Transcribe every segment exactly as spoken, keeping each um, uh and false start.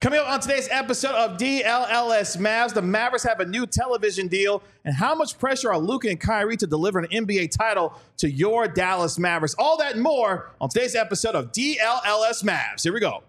Coming up on today's episode of D L L S Mavs, the Mavericks have a new television deal, and how much pressure are Luka and Kyrie to deliver an N B A title to your Dallas Mavericks? All that and more on today's episode of D L L S Mavs. Here we go.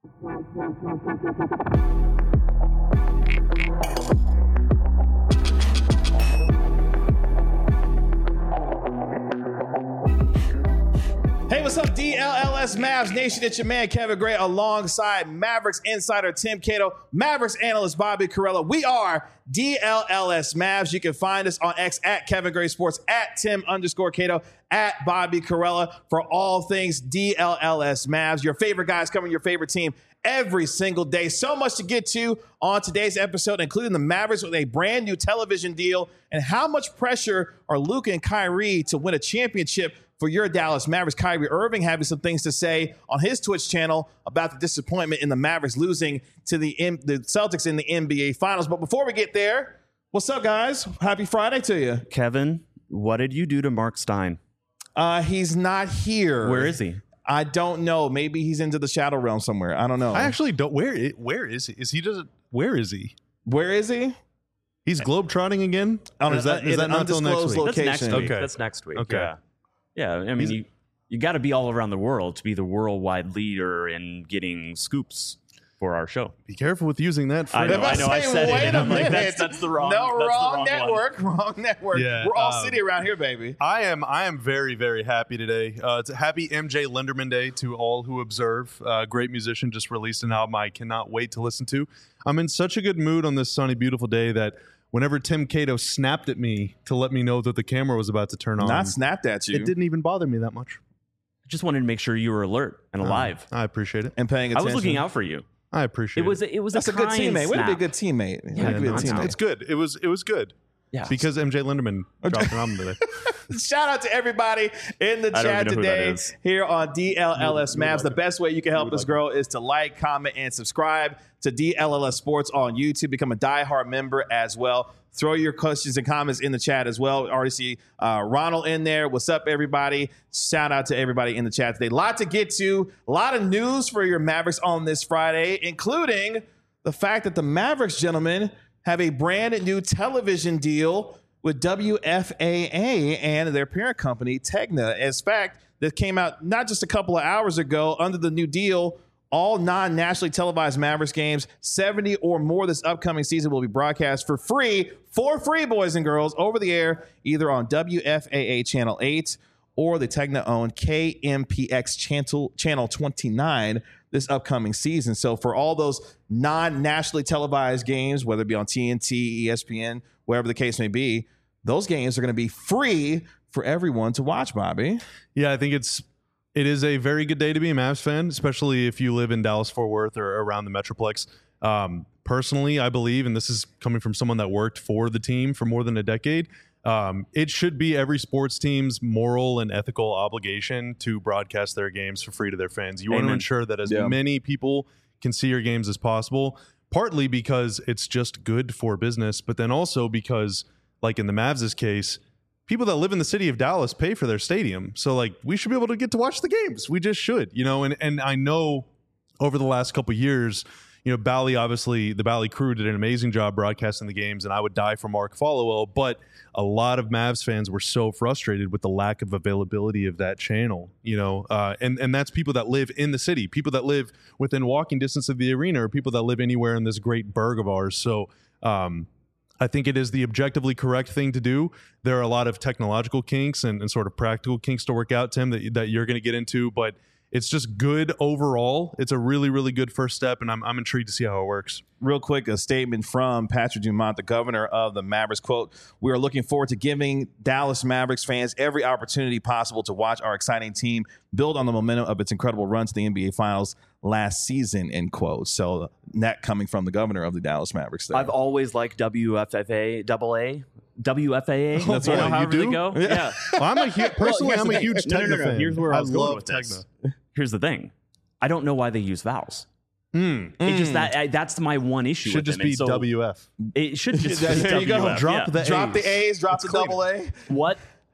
Hey, what's up, D L L S Mavs Nation? It's your man, Kevin Gray, alongside Mavericks insider Tim Cato, Mavericks analyst Bobby Karalla. We are D L L S Mavs. You can find us on X at Kevin Gray Sports, at Tim underscore Cato, at Bobby Karalla for all things D L L S Mavs. Your favorite guys covering your favorite team every single day. So much to get to on today's episode, including the Mavericks with a brand new television deal and how much pressure are Luka and Kyrie to win a championship for your Dallas Mavericks. Kyrie Irving having some things to say on his Twitch channel about the disappointment in the Mavericks losing to the, M- the Celtics in the N B A Finals. But before we get there, what's up, guys? Happy Friday to you. Kevin, what did you do to Mark Stein? Uh, he's not here. Where is he? I don't know. Maybe he's into the Shadow Realm somewhere. I don't know. I actually don't. Where is, where is he? Is he just? Where is he? Where is he? He's globetrotting again? On Or is that, a, is in that an not until next undisclosed week? location. That's next week. Okay. That's next week. Okay. Yeah. Yeah. I mean, He's- you, you got to be all around the world to be the worldwide leader in getting scoops for our show. Be careful with using that I phrase. know, I know. I said it, Wait and a I'm like, minute. that's- that's the wrong- No, that's the wrong, wrong network. Wrong network. Yeah, We're all um, city around here, baby. I am I am very, very happy today. Uh, it's a happy M J Linderman Day to all who observe. Uh, great musician just released an album I cannot wait to listen to. I'm in such a good mood on this sunny, beautiful day that whenever Tim Cato snapped at me to let me know that the camera was about to turn on, Not snapped at you. it didn't even bother me that much. Just wanted to make sure you were alert and alive. I appreciate it. And paying I attention. was looking out for you. I appreciate It was it. a, it was That's a, a good kind teammate. Way to be a snap. good teammate. Way Yeah, to be a no, it's teammate. It's good. It was it was good. Yeah. Because M J Linderman dropped an album today. Shout out to everybody in the I don't chat even know who that today is. here on D L L S Mavs. The best way you can help us grow is to like, comment, and subscribe to D L L S Sports on YouTube. Become a diehard member as well. Throw your questions and comments in the chat as well. We already see uh, Ronald in there. What's up, everybody? Shout out to everybody in the chat today. A lot to get to. A lot of news for your Mavericks on this Friday, including the fact that the Mavericks, gentlemen, have a brand new television deal with W F A A and their parent company, Tegna. As fact, that came out not just a couple of hours ago. Under the new deal, all non-nationally televised Mavericks games, seventy or more this upcoming season, will be broadcast for free, for free, boys and girls, over the air, either on W F A A Channel eight or the Tegna-owned K M P X Channel, Channel twenty-nine this upcoming season. So for all those non-nationally televised games, whether it be on T N T, E S P N, wherever the case may be, those games are going to be free for everyone to watch, Bobby. Yeah, I think it's it is a very good day to be a Mavs fan, especially if you live in Dallas-Fort Worth or around the Metroplex. Um, personally, I believe, and this is coming from someone that worked for the team for more than a decade, um, it should be every sports team's moral and ethical obligation to broadcast their games for free to their fans. You Amen. want to ensure that as Yeah. many people can see your games as possible, partly because it's just good for business, but then also because, like in the Mavs' case, people that live in the city of Dallas pay for their stadium. So like we should be able to get to watch the games. We just should, you know, and, and I know over the last couple of years, you know, Bally, obviously the Bally crew did an amazing job broadcasting the games, and I would die for Mark Followell, but a lot of Mavs fans were so frustrated with the lack of availability of that channel, you know, uh, and, and that's people that live in the city, people that live within walking distance of the arena, or people that live anywhere in this great burg of ours. So, um, I think it is the objectively correct thing to do. There are a lot of technological kinks and, and sort of practical kinks to work out, Tim, that, that you're going to get into, but it's just good overall. It's a really, really good first step, and I'm, I'm intrigued to see how it works. Real quick, a statement from Patrick Dumont, the governor of the Mavericks. Quote, "We are looking forward to giving Dallas Mavericks fans every opportunity possible to watch our exciting team build on the momentum of its incredible run to the N B A Finals last season," end quote. So that coming from the governor of the Dallas Mavericks there. I've always liked W F F A, double A, W F A A. That's you right. know, You however do? they go. Yeah. Well, I'm a hu- personally, here's I'm the a thing. huge No, no, Tegna no, no. fan. Here's where I was going love with this. Tegna. Here's the thing. I don't know why they use vowels. Mm. It just that I, that's my one issue. Should with just them. And be so W F. It should just be There you go. W F, Drop yeah. the Drop the A's. A's, drop Let's the clean double A. What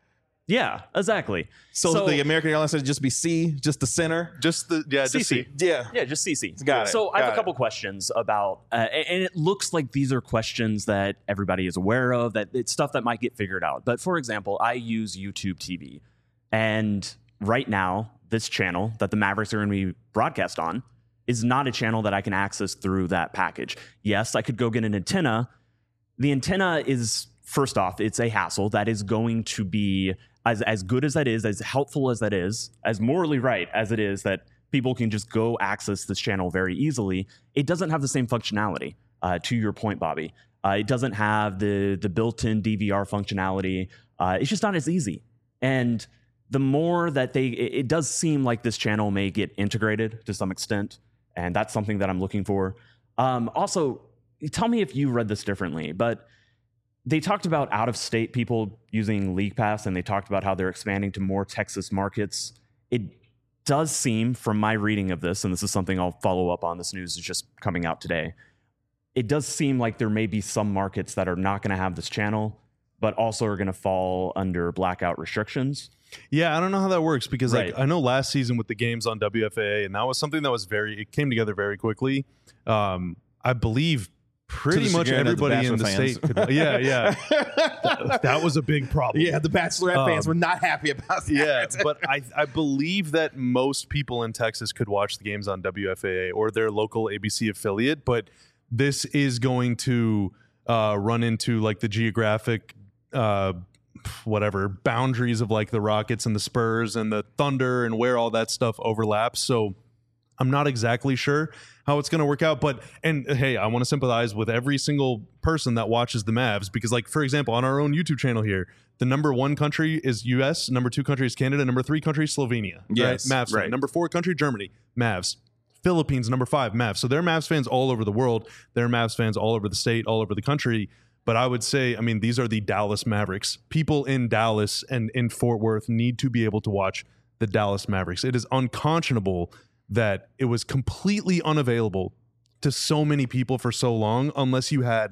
Yeah, exactly. So, So- the American Airlines said just be C, just the center. Just the yeah, just C C. see. Yeah. Yeah, just C C. Got it. So I have Got a it. couple questions about, uh, and it looks like these are questions that everybody is aware of, that it's stuff that might get figured out. But for example, I use YouTube T V, and right now, this channel that the Mavericks are going to be broadcast on is not a channel that I can access through that package. Yes, I could go get an antenna. The antenna is, first off, it's a hassle that is going to be as as good as that is, as helpful as that is, as morally right as it is that people can just go access this channel very easily. It doesn't have the same functionality. Uh, to your point, Bobby, uh, it doesn't have the the built-in D V R functionality. Uh, it's just not as easy. And the more that they, it, it does seem like this channel may get integrated to some extent, and that's something that I'm looking for. Um, also, tell me if you read this differently, but they talked about out-of-state people using League Pass, and they talked about how they're expanding to more Texas markets. It does seem, from my reading of this, and this is something I'll follow up on, this news is just coming out today, it does seem like there may be some markets that are not going to have this channel, but also are going to fall under blackout restrictions. Yeah, I don't know how that works because Right. like I know last season with the games on W F A A, and that was something that was very, it came together very quickly. Um, I believe pretty the much chagrin of the everybody in the Bachelor state. Could, yeah, yeah, that, that was a big problem. Yeah, the Bachelorette Um, fans were not happy about that. Yeah, but I, I believe that most people in Texas could watch the games on W F A A or their local A B C affiliate, but this is going to uh, run into like the geographic uh, whatever boundaries of like the Rockets and the Spurs and the Thunder and where all that stuff overlaps. So I'm not exactly sure how it's going to work out, but and hey, I want to sympathize with every single person that watches the Mavs because, like, for example, on our own YouTube channel here, the number one country is U S, number two country is Canada, number three country is Slovenia. Yes, right? Mavs fan. right. Number four country Germany, Mavs. Philippines, number five, Mavs. So they're Mavs fans all over the world. They're Mavs fans all over the state, all over the country. But I would say, I mean, these are the Dallas Mavericks. People in Dallas and in Fort Worth need to be able to watch the Dallas Mavericks. It is unconscionable that it was completely unavailable to so many people for so long unless you had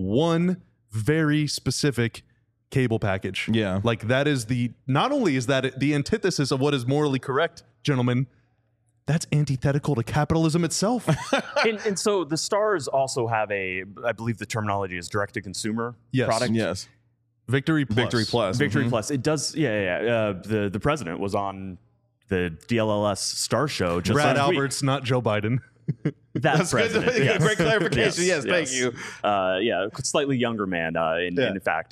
one very specific cable package. Yeah. Like that is the, not only is that the antithesis of what is morally correct, gentlemen, that's antithetical to capitalism itself. and, and so the Stars also have a, I believe the terminology is direct-to-consumer Yes. product. Yes. Victory Plus. Victory Plus. Victory Mhm. Plus. It does, yeah, yeah. yeah. Uh, the the president was on the D L L S Star Show just Brad last week. Alberts, not Joe Biden. That That's good. president. yes. Great clarification. Yes, thank you. Uh, yeah, slightly younger man. Uh, in, Yeah. in fact,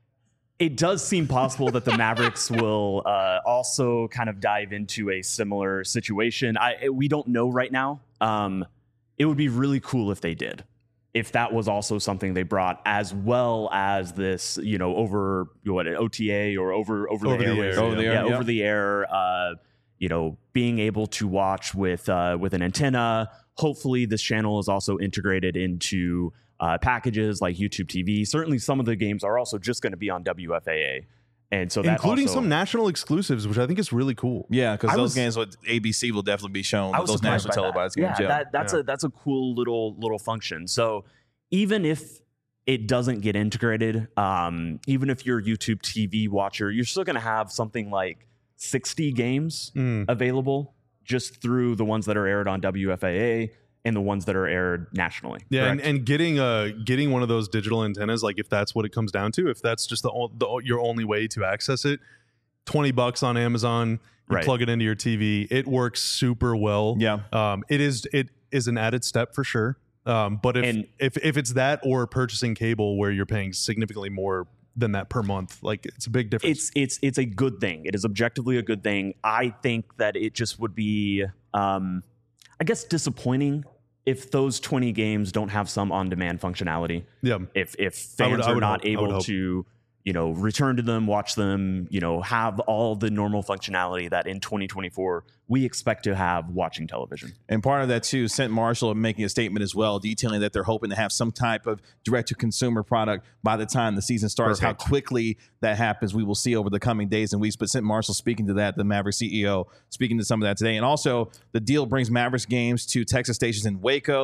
it does seem possible that the Mavericks will uh, also kind of dive into a similar situation. I we don't know right now. Um, it would be really cool if they did. If that was also something they brought, as well as this, you know, over what an O T A or over over, Over the, the air, air, Over the yeah, air, yeah. over the air. Uh, you know, being able to watch with uh, with an antenna. Hopefully, this channel is also integrated into uh, packages like YouTube T V. Certainly, some of the games are also just going to be on W F A A, and so that Including also, some national exclusives, which I think is really cool. Yeah, because I those was- games with A B C will definitely be shown. I was Those surprised national by televised that. games. Yeah, Yeah, that, that's Yeah. a that's a cool little little function. So even if it doesn't get integrated, um, even if you're a YouTube T V watcher, you're still going to have something like sixty games Mm. available just through the ones that are aired on W F A A and the ones that are aired nationally. Yeah, and, correct? and getting uh getting one of those digital antennas, like if that's what it comes down to, if that's just the, o- the your only way to access it, twenty bucks on Amazon, you Right. plug it into your T V, it works super well. Yeah. um, it is it is an added step for sure. Um, but if And- if if it's that or purchasing cable where you're paying significantly more than that per month, like it's a big difference. it's it's it's a good thing. It is objectively a good thing. I think that it just would be, um, I guess, disappointing if those twenty games don't have some on-demand functionality. yeah. If if I would- fans I are would not hope- I would able hope. to, you know, return to them, watch them, you know, have all the normal functionality that in twenty twenty-four we expect to have watching television. And part of that too, Saint Marshall making a statement as well, detailing that they're hoping to have some type of direct-to-consumer product by the time the season starts. Perfect. How quickly that happens, we will see over the coming days and weeks. But Saint Marshall speaking to that, the Mavericks C E O speaking to some of that today, and also the deal brings Mavericks games to Texas stations in Waco,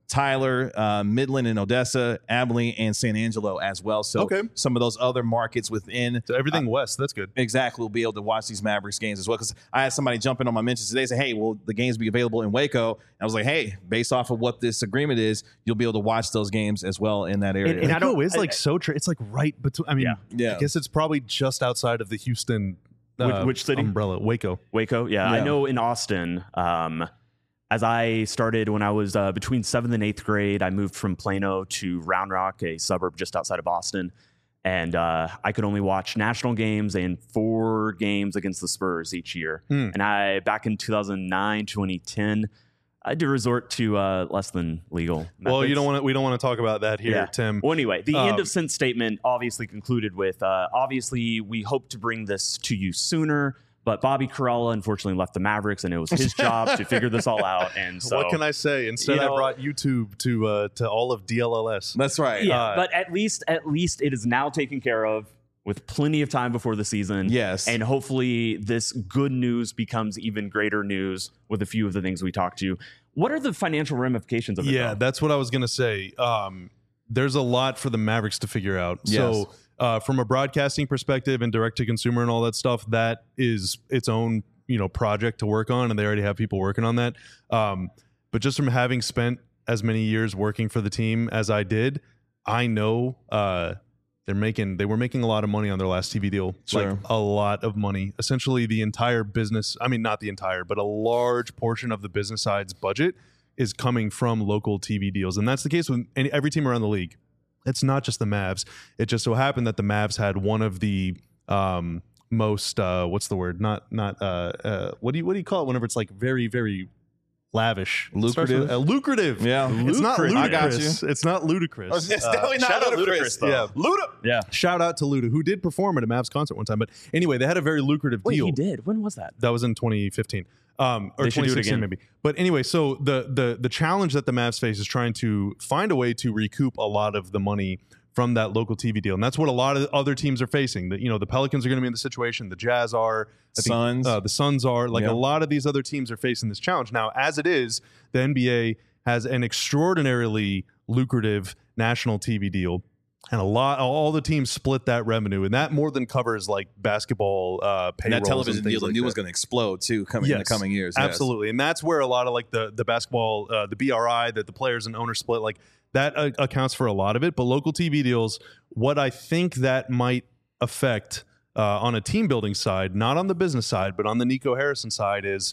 Tyler, uh, Midland and Odessa, Abilene, and San Angelo as well. So Okay. some of those other markets within So everything uh, west, that's good. exactly will be able to watch these Mavericks games as well. Because I had somebody jump in on my mentions today, say, "Hey, will the games be available in Waco?" And I was like, "Hey, based off of what this agreement is, you'll be able to watch those games as well in that area." And- and I Waco don't- is like I- so tra- it's like right between. I mean, Yeah. Yeah. I guess it's probably just outside of the Houston Which- uh, which city? umbrella. Waco. Waco, yeah, Yeah. I know in Austin. Um, as I started when I was uh, between seventh and eighth grade, I moved from Plano to Round Rock, a suburb just outside of Boston, and uh, I could only watch national games and four games against the Spurs each year. Hmm. And I back in two thousand nine, twenty ten, I had to resort to uh, less than legal. Well, you methods. don't want to. We don't want to talk about that here, Yeah. Tim. Well, anyway, the Um, end of Sense statement obviously concluded with, uh, obviously, we hope to bring this to you sooner, but Bobby Karalla unfortunately left the Mavericks, and it was his job to figure this all out. And so, what can I say? Instead, you know- I brought YouTube to uh, to all of D L L S. That's right. yeah, uh, but at least, at least it is now taken care of with plenty of time before the season. Yes. And hopefully this good news becomes even greater news with a few of the things we talked to. What are the financial ramifications of it? Yeah, though? that's what I was gonna say. Um, there's a lot for the Mavericks to figure out. Yes. So, uh, from a broadcasting perspective and direct to consumer and all that stuff, that is its own you know project to work on, and they already have people working on that. Um, but just from having spent as many years working for the team as I did, I know uh, they're making they were making a lot of money on their last T V deal, Sure. like a lot of money. Essentially, the entire business. I mean, not the entire, but a large portion of the business side's budget is coming from local T V deals. And that's the case with any, every team around the league. It's not just the Mavs. It just so happened that the Mavs had one of the um, most, uh, what's the word? Not, not, uh, uh, what do you, what do you call it whenever it's like very, very lavish? It starts with- Lucrative? uh, lucrative. Yeah. It's not Lucrative. I got ludicrous. It's not ludicrous. Oh, it's Uh, definitely not shout out ludicrous. Ludacris, though. yeah. Luda. Yeah. Shout out to Luda, who did perform at a Mavs concert one time. But anyway, they had a very lucrative Wait, deal. he did. When was that? That was in twenty fifteen. Um, or They should do it twenty sixteen again. maybe. But anyway, so the the the challenge that the Mavs face is trying to find a way to recoup a lot of the money from that local T V deal, and that's what a lot of other teams are facing. That you know the Pelicans are going to be in the situation, the Jazz are, I think, Suns. uh, the Suns are. Like Yeah. a lot of these other teams are facing this challenge now. As it is, the N B A has an extraordinarily lucrative national T V deal. And a lot, all the teams split that revenue, and that more than covers like basketball uh, And payrolls. that television and things deal, the like new that. one's going to explode too, coming in the Yes, coming years. Yes. Absolutely, and that's where a lot of like the the basketball, uh, the B R I, that the players and owners split, like that uh, accounts for a lot of it. But local T V deals, what I think that might affect uh, on a team building side, not on the business side, but on the Nico Harrison side, is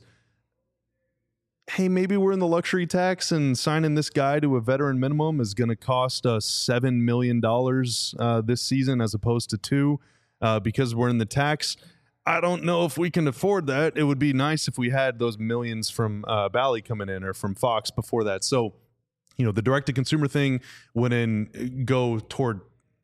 hey, maybe we're in the luxury tax, and signing this guy to a veteran minimum is going to cost us seven million dollars uh, this season as opposed to two uh, because we're in the tax. I don't know if we can afford that. It would be nice if we had those millions from uh, Bally coming in or from Fox before that. So, you know, the direct-to-consumer thing wouldn't go toward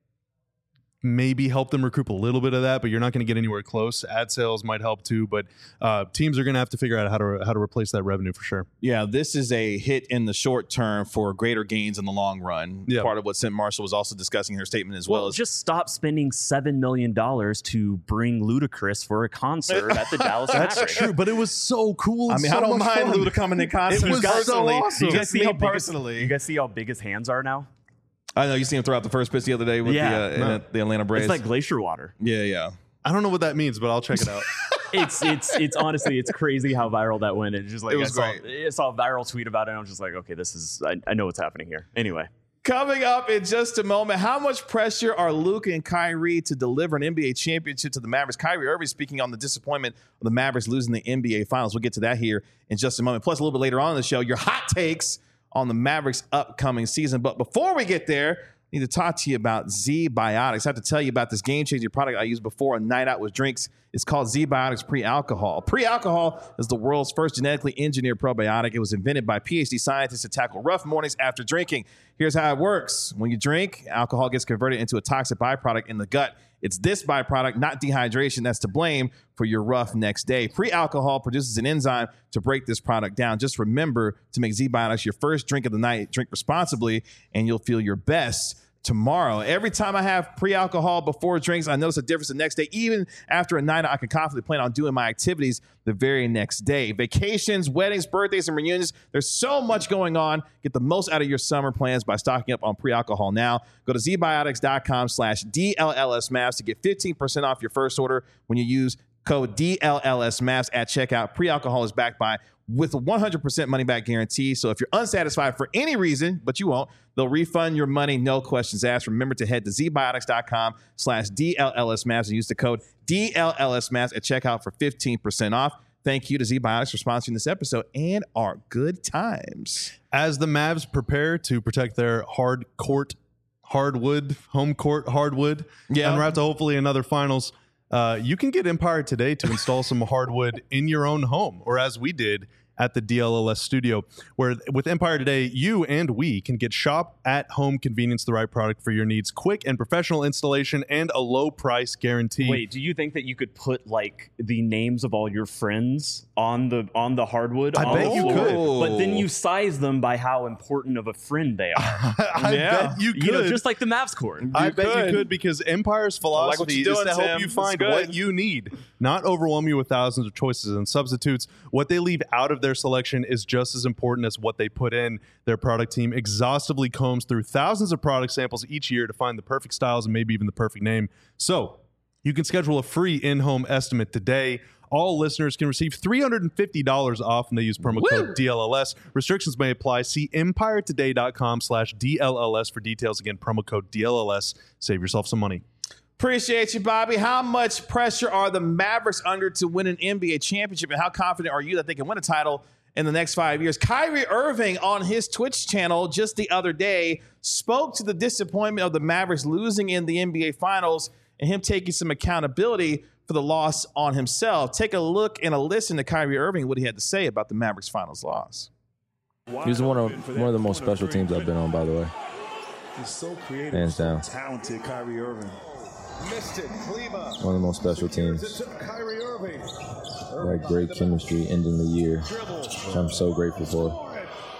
maybe help them recoup a little bit of that, but you're not going to get anywhere close. Ad sales might help too, but uh, teams are going to have to figure out how to how to replace that revenue for sure. Yeah, this is a hit in the short term for greater gains in the long run. Yeah. Part of what Cent Marshall was also discussing in her statement as well. Well, is just stop spending seven million dollars to bring Ludacris for a concert at the Dallas That's Mavericks. true, but it was so cool. I and mean, so I don't much mind fun. Luda coming in concert. It was so personally. awesome. You guys Just see me how big his- personally. you guys see how big his hands are now? I know you seen him throw out the first pitch the other day with Yeah. the, uh, in No. the, the Atlanta Braves. It's like glacier water. yeah, yeah. I don't know what that means, but I'll check it out. It's it's it's honestly it's crazy how viral that went. It's just like It was I saw, great. I saw a viral tweet about it. And I was just like, okay, this is I, I know what's happening here. Anyway, Coming up in just a moment, how much pressure are Luka and Kyrie to deliver an N B A championship to the Mavericks? Kyrie Irving speaking on the disappointment of the Mavericks losing the N B A Finals. We'll get to that here in just a moment. Plus, a little bit later on in the show, your hot takes on the Mavericks' upcoming season. But before we get there, I need to talk to you about Z-Biotics. I have to tell you about this game-changing product I used before a night out with drinks. It's called Z-Biotics Pre-Alcohol. Pre-Alcohol is the world's first genetically engineered probiotic. It was invented by PhD scientists to tackle rough mornings after drinking. Here's how it works. When you drink, alcohol gets converted into a toxic byproduct in the gut. It's this byproduct, not dehydration, that's to blame for your rough next day. Pre-alcohol produces an enzyme to break this product down. Just remember to make Z-Biotics your first drink of the night. Drink responsibly, and you'll feel your best. tomorrow. Every time I have pre-alcohol before drinks, I notice a difference the next day. Even after a night, I can confidently plan on doing my activities the very next day. Vacations, weddings, birthdays, and reunions. There's so much going on. Get the most out of your summer plans by stocking up on pre-alcohol now. Go to zbiotics.com slash DLLSMavs to get fifteen percent off your first order when you use code DLLSMavs at checkout. Pre-alcohol is backed by with a one hundred percent money back guarantee. So if you're unsatisfied for any reason, but you won't, they'll refund your money, no questions asked. Remember to head to zbiotics.com slash DLLSMavs and use the code DLLSMavs at checkout for fifteen percent off. Thank you to ZBiotics for sponsoring this episode and our good times. As the Mavs prepare to protect their hard court, hardwood, home court hardwood, Yeah. and we're out to hopefully another finals, uh, you can get Empire today to install some hardwood in your own home, or as we did at the D L L S studio, where with Empire Today, you and we can get shop at home convenience, the right product for your needs, quick and professional installation, and a low price guarantee. Wait, do you think that you could put like the names of all your friends on the on the hardwood? I on bet the you floor, could. But then you size them by how important of a friend they are. I Yeah. bet you could. You know, just like the Mavs court. I You bet could. you could, because Empire's like what philosophy you're doing, is to help Tim. you That's find good. what you need, not overwhelm you with thousands of choices and substitutes. What they leave out of their selection is just as important as what they put in. Their product team exhaustively combs through thousands of product samples each year to find the perfect styles and maybe even the perfect name. So you can schedule a free in-home estimate today. All listeners can receive three hundred fifty dollars off when they use promo code Woo! D L L S. Restrictions may apply. See empiretoday.com slash DLLS for details. Again, promo code D L L S. Save yourself some money. Appreciate you, Bobby. How much pressure are the Mavericks under to win an N B A championship, and how confident are you that they can win a title in the next five years? Kyrie Irving on his Twitch channel just the other day spoke to the disappointment of the Mavericks losing in the N B A Finals and him taking some accountability for the loss on himself. Take a look and a listen to Kyrie Irving, what he had to say about the Mavericks Finals loss. He was one of one of the most special teams I've been on, by the way. He's so creative, Hands so down. talented, Kyrie Irving. Missed it. Kleba. One of the most special teams. To Kyrie Irving. We had great chemistry ending the year, which I'm so grateful for.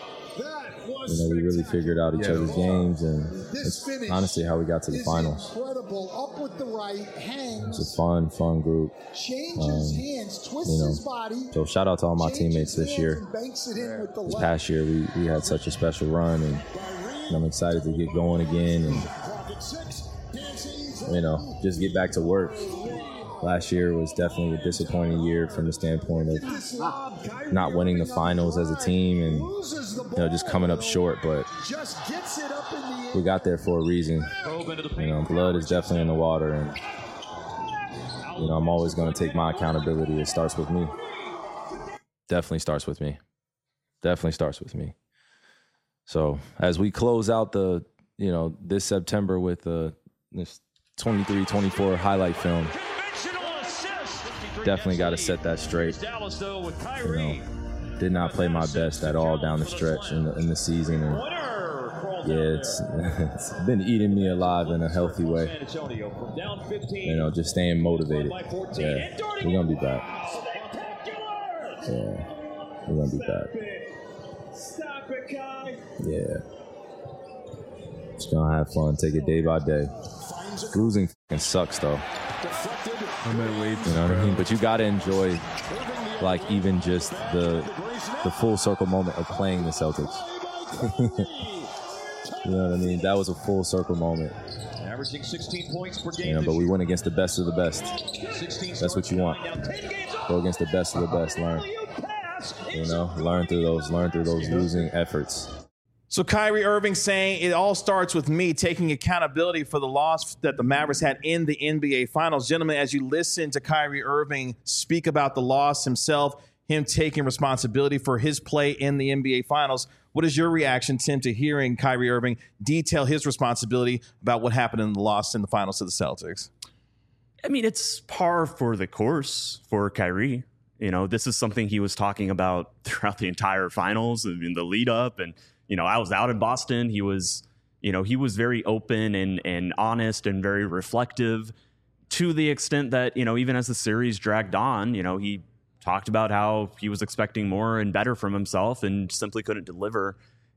That was You know, we really figured out each other's games, and This it's finish honestly how we got to the is finals. Incredible. Up with the right, hangs, It's a fun, fun group. changes um, hands, twists you know, his body. So shout out to all my changes teammates this hands year. and banks it in with the This left. past year, we, we had such a special run, and, and I'm excited to get going again and, you know, just get back to work. Last year was definitely a disappointing year from the standpoint of not winning the finals as a team and, you know, just coming up short, but Just gets it up in the air. we got there for a reason. You know, blood is definitely in the water, and, you know, I'm always going to take my accountability. It starts with me. Definitely starts with me. Definitely starts with me. So as we close out the, you know, this September with uh, this twenty-three twenty-four highlight film, definitely got to set that straight. You know, did not play my best at all down the stretch in the, in the season. And yeah, it's, it's been eating me alive in a healthy way. You know, just staying motivated. Yeah, we're going to be back. Yeah, we're going to be back. Yeah. Just going to have fun. Take it day by day. Losing f***ing sucks, though. I'm gonna wait. You know what I mean? But you got to enjoy, like, even just the the full circle moment of playing the Celtics. You know what I mean? That was a full circle moment. Averaging sixteen points per game. You know, but we went against the best of the best. That's what you want. Go against the best of the best. Learn. You know, learn through those, learn through those losing efforts. So Kyrie Irving saying it all starts with me taking accountability for the loss that the Mavericks had in the N B A Finals. Gentlemen, as you listen to Kyrie Irving speak about the loss himself, him taking responsibility for his play in the N B A Finals, what is your reaction, Tim, to hearing Kyrie Irving detail his responsibility about what happened in the loss in the Finals to the Celtics? I mean, it's par for the course for Kyrie. You know, this is something he was talking about throughout the entire finals and in the lead up. And, you know, I was out in Boston. He was, you know, he was very open and, and honest and very reflective to the extent that, you know, even as the series dragged on, you know, he talked about how he was expecting more and better from himself and simply couldn't deliver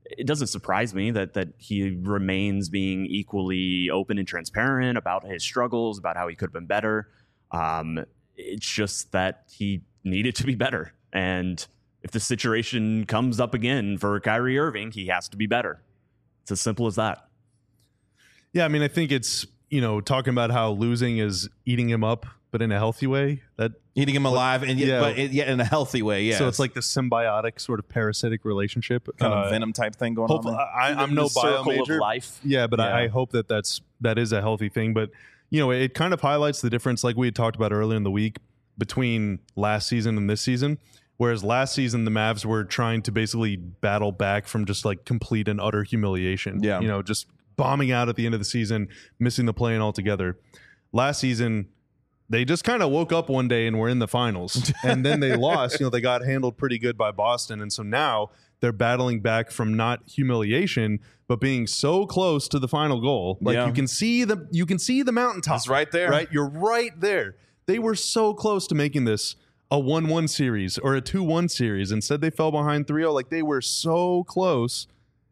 it doesn't surprise me that that he remains being equally open and transparent about his struggles, about how he could have been better. Um, it's just that he needed to be better. And if the situation comes up again for Kyrie Irving, he has to be better. It's as simple as that. Yeah, I mean, I think it's, you know, talking about how losing is eating him up, but in a healthy way. That Eating him alive, and yet, Yeah. but it, yeah, in a healthy way. Yeah. So it's like the symbiotic sort of parasitic relationship. kind Uh, of Venom type thing going hopefully, on. There. I, I'm no The circle bio of major. life. Yeah, but Yeah. I, I hope that that's that is a healthy thing. But you know, it kind of highlights the difference, like we had talked about earlier in the week, between last season and this season. Whereas last season the Mavs were trying to basically battle back from just like complete and utter humiliation. Yeah. You know, just bombing out at the end of the season, missing the play-in altogether. Last season, they just kind of woke up one day and were in the finals. And then they lost. You know, they got handled pretty good by Boston. And so now they're battling back from not humiliation, but being so close to the final goal. Like Yeah. you can see the you can see the mountaintop. It's right there. Right? You're right there. They were so close to making this a one one series or a two one series. Instead, they fell behind three oh. Like they were so close.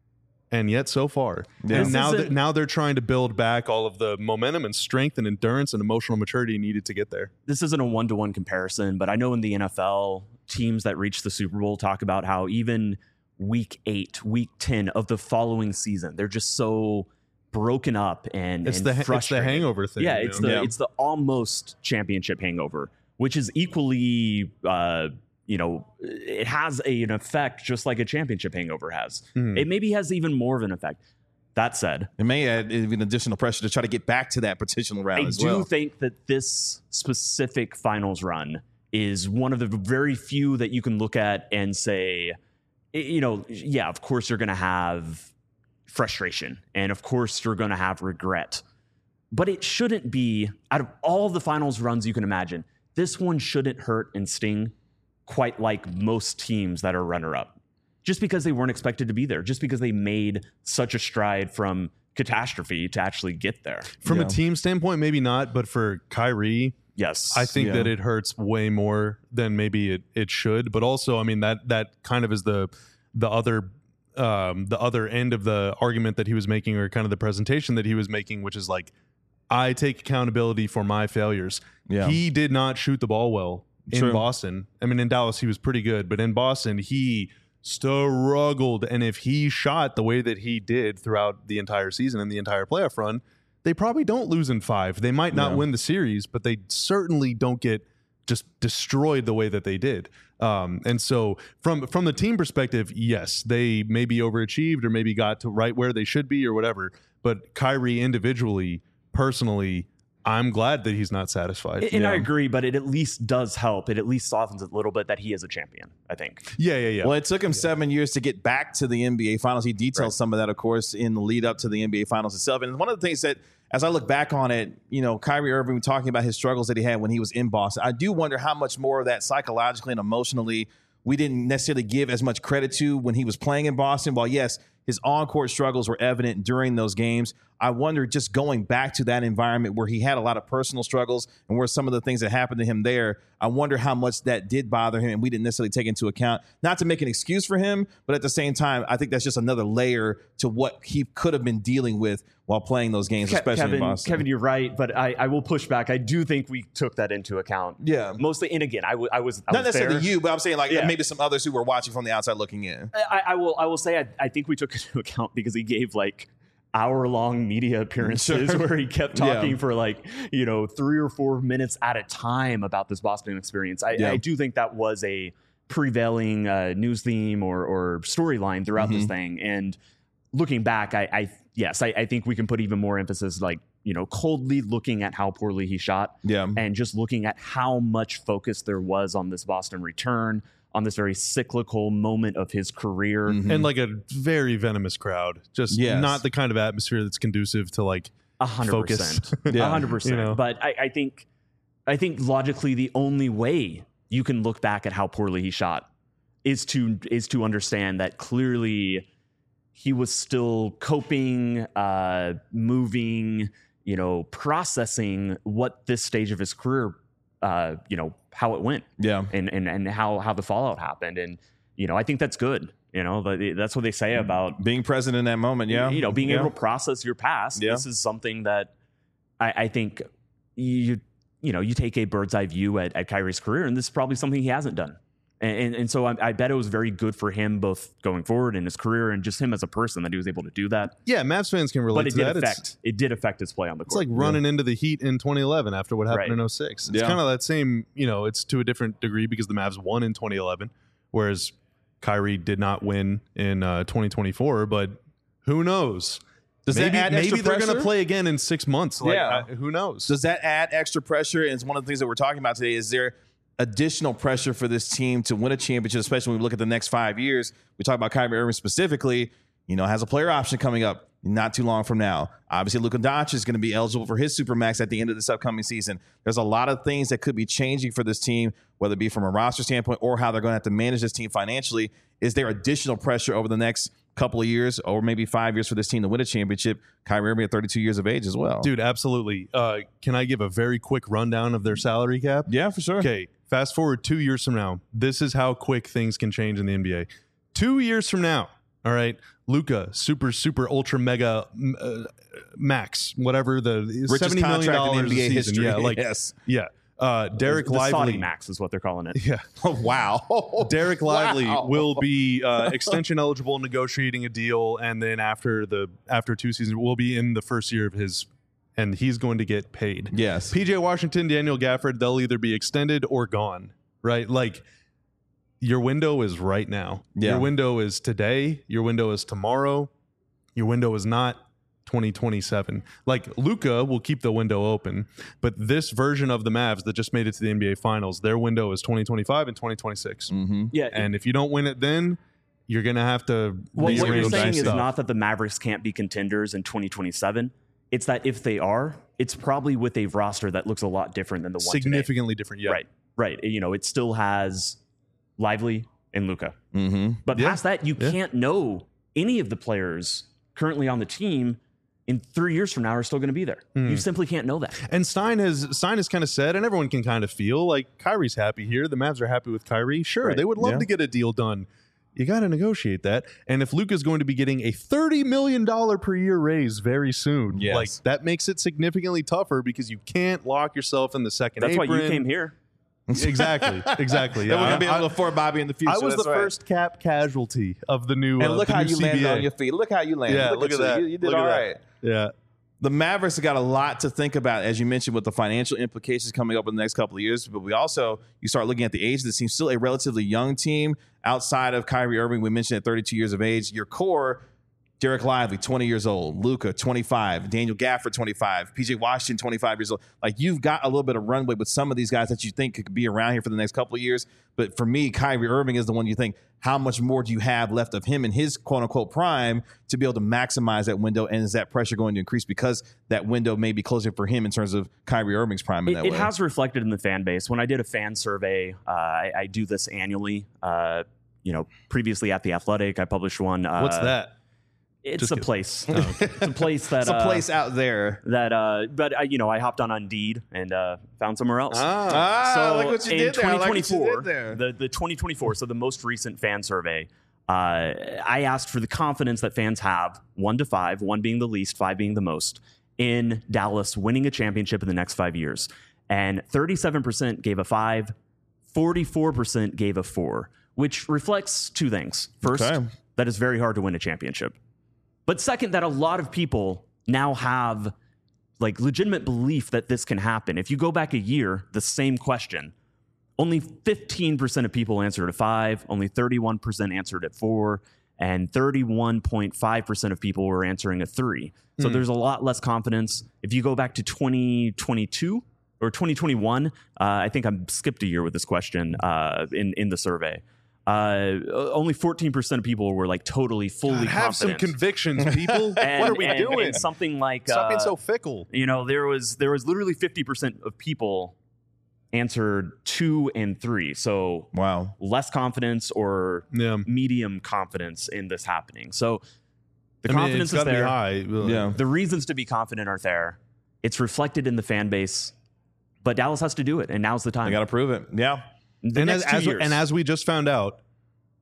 And yet so far. Yeah. And This now isn't- that now they're trying to build back all of the momentum and strength and endurance and emotional maturity needed to get there. This isn't a one-to-one comparison, but I know in the N F L, teams that reach the Super Bowl talk about how even week eight, week ten of the following season, they're just so broken up and, It's and the it's the frustrated. hangover thing. Yeah, you it's know? the Yeah. it's the almost championship hangover, which is equally, uh, you know, it has a, an effect just like a championship hangover has. Mhm. It maybe has even more of an effect. That said, It may add even additional pressure to try to get back to that potential round I as do well. think that this specific finals run is one of the very few that you can look at and say, y- you know, yeah, of course you're going to have frustration and of course you're going to have regret. But it shouldn't be, out of all the finals runs you can imagine, this one shouldn't hurt and sting quite like most teams that are runner-up. Just because they weren't expected to be there, just because they made such a stride from catastrophe to actually get there. From Yeah. a team standpoint, maybe not, but for Kyrie, Yes. I think Yeah. that it hurts way more than maybe it, it should. But also, I mean, that that kind of is the the other um, the other end of the argument that he was making, or kind of the presentation that he was making, which is like, I take accountability for my failures. Yeah. He did not shoot the ball well in True. Boston. I mean, in Dallas, he was pretty good, but in Boston, he struggled. And if he shot the way that he did throughout the entire season and the entire playoff run, they probably don't lose in five. They might not Yeah. win the series, but they certainly don't get just destroyed the way that they did. Um, and so from from the team perspective, yes, they maybe overachieved or maybe got to right where they should be or whatever. But Kyrie individually, personally, I'm glad that he's not satisfied. And Yeah. I agree, but it at least does help. It at least softens it a little bit that he is a champion, I think. Yeah, yeah, yeah. Well, it took him seven years to get back to the N B A Finals. He detailed Right. some of that, of course, in the lead up to the N B A Finals itself. And one of the things that, as I look back on it, you know, Kyrie Irving talking about his struggles that he had when he was in Boston, I do wonder how much more of that psychologically and emotionally we didn't necessarily give as much credit to when he was playing in Boston. While, yes, his on-court struggles were evident during those games, I wonder, just going back to that environment where he had a lot of personal struggles and where some of the things that happened to him there, I wonder how much that did bother him and we didn't necessarily take into account. Not to make an excuse for him, but at the same time, I think that's just another layer to what he could have been dealing with while playing those games, Ke- especially Kevin, in Boston. Kevin, you're right, but I, I will push back. I do think we took that into account. Yeah. Mostly, and again, I, w- I was I Not was necessarily there. you, but I'm saying like Yeah. maybe some others who were watching from the outside looking in. I, I will I will say I, I think we took it into account because he gave like hour long media appearances Sure. where he kept talking Yeah. for like, you know, three or four minutes at a time about this Boston experience. I, Yeah. I do think that was a prevailing uh, news theme or, or storyline throughout this Mhm. thing. And looking back, I, I yes, I, I think we can put even more emphasis, like, you know, coldly looking at how poorly he shot Yeah. and just looking at how much focus there was on this Boston return, on this very cyclical moment of his career. Mhm. and like a very venomous crowd. Just Yes. not the kind of atmosphere that's conducive to like A hundred focus. percent. A Yeah. hundred You percent. know? But I, I think, I think logically, the only way you can look back at how poorly he shot is to is to understand that clearly he was still coping, uh, moving, you know, processing what this stage of his career, uh, you know, how it went Yeah. and and and how how the fallout happened. And you know, I think that's good. You know, but that's what they say about being present in that moment. Yeah. You know, being yeah. able to process your past. Yeah. This is something that I, I think you, you know, you take a bird's eye view at, at Kyrie's career, and this is probably something he hasn't done. And, and, and so I, I bet it was very good for him, both going forward in his career and just him as a person, that he was able to do that. Yeah, Mavs fans can relate But it to did that. affect It's, it did affect his play on the it's court. like running into the Heat in twenty eleven after what happened Right. in oh six. It's Yeah. kind of that same, you know, it's to a different degree because the Mavs won in twenty eleven, whereas Kyrie did not win in uh, twenty twenty-four. But who knows? Does maybe that add maybe extra they're going to pressure? play again in six months. Like, Yeah. I, who knows? Does that add extra pressure? And it's one of the things that we're talking about today. Is there additional pressure for this team to win a championship, especially when we look at the next five years? We talk about Kyrie Irving specifically, you know, has a player option coming up not too long from now. Obviously, Luka Doncic is going to be eligible for his Supermax at the end of this upcoming season. There's a lot of things that could be changing for this team, whether it be from a roster standpoint or how they're going to have to manage this team financially. Is there additional pressure over the next couple of years or maybe five years for this team to win a championship? Kyrie Irving at thirty-two years of age as well. Dude, absolutely. Uh, can I give a very quick rundown of their salary cap? Yeah, for sure. Okay, fast forward two years from now. This is how quick things can change in the N B A. Two years from now, all right, Luka, super, super, ultra, mega, uh, max, whatever the Richest seventy million contract dollars in N B A a season. history. Yeah, like yes. yeah. Uh, Derek the Saudi Lively, Max is what they're calling it. yeah. Wow. Derek Lively Wow. will be uh, extension eligible, negotiating a deal, and then after the after two seasons, will be in the first year of his, and he's going to get paid. Yes. P J Washington, Daniel Gafford, they'll either be extended or gone. Right, like your window is right now. Yeah. Your window is today. Your window is tomorrow. Your window is not twenty twenty-seven. Like Luka will keep the window open, but this version of the Mavs that just made it to the N B A Finals, their window is twenty twenty-five and twenty twenty-six. Mm-hmm. Yeah, And if you don't win it then, you're going to have to Well, what you're rearrange saying is stuff. not that the Mavericks can't be contenders in twenty twenty-seven. It's that if they are, it's probably with a roster that looks a lot different than the one today. significantly different. Yeah. Right, right. You know, it still has Lively and Luka. Mm-hmm. But Yeah. past that, you Yeah. can't know any of the players currently on the team in three years from now are still going to be there. Hmm. You simply can't know that. And Stein has Stein has kind of said, and everyone can kind of feel like Kyrie's happy here. The Mavs are happy with Kyrie. Sure, Right. they would love Yeah. to get a deal done. You got to negotiate that. And if Luka's going to be getting a thirty million dollars per year raise very soon, Yes. like that makes it significantly tougher because you can't lock yourself in the second That's apron. why you came here. Exactly, exactly. Then we're Yeah, gonna be I- able to afford Bobby in the future. I was That's the right. first cap casualty of the new. And uh, look the how new you C B A. landed on your feet. Look how you landed. Yeah, look at you. that. You, you did Look at all that. right. Yeah. The Mavericks have got a lot to think about, as you mentioned, with the financial implications coming up in the next couple of years. But we also, you start looking at the age of the team, still a relatively young team outside of Kyrie Irving. We mentioned at thirty-two years of age. Your core, Derek Lively, twenty years old. Luka, twenty-five. Daniel Gafford, twenty-five. P J Washington, twenty-five years old. Like, you've got a little bit of runway with some of these guys that you think could be around here for the next couple of years. But for me, Kyrie Irving is the one you think, how much more do you have left of him in his quote-unquote prime to be able to maximize that window? And is that pressure going to increase because that window may be closing for him in terms of Kyrie Irving's prime in It, that it way? has reflected in the fan base. When I did a fan survey, uh, I, I do this annually. Uh, you know, previously at The Athletic, I published one. Uh, What's that? It's Just a kidding. place. It's a place that It's a uh, place out there. that. Uh, but I, you know, I hopped on Indeed and uh, found somewhere else. Ah, so look what you in did there. I like what you did 2024, there. the the twenty twenty-four, so the most recent fan survey, uh, I asked for the confidence that fans have, one to five, one being the least, five being the most, in Dallas winning a championship in the next five years. And thirty-seven percent gave a five, forty-four percent gave a four, which reflects two things. First, Okay. that it's very hard to win a championship. But second, that a lot of people now have like legitimate belief that this can happen. If you go back a year, the same question, only fifteen percent of people answered a five, only thirty-one percent answered at four, and thirty-one point five percent of people were answering a three. So there's a lot less confidence. If you go back to twenty twenty-two or twenty twenty-one, uh, I think I skipped a year with this question uh, in, in the survey. Uh, only fourteen percent of people were like totally, fully God, have some confident. convictions, people. And- what are we and- doing? and something like Stop being uh, so fickle. you know, there was there was literally fifty percent of people answered two and three. So Wow. less confidence or Yeah. medium confidence in this happening. So the I mean, confidence it's is gotta be there. high. Yeah. The reasons to be confident are there. It's reflected in the fan base. But Dallas has to do it, and now's the time. I got to prove it. Yeah. the And next as, two as years. and as we just found out,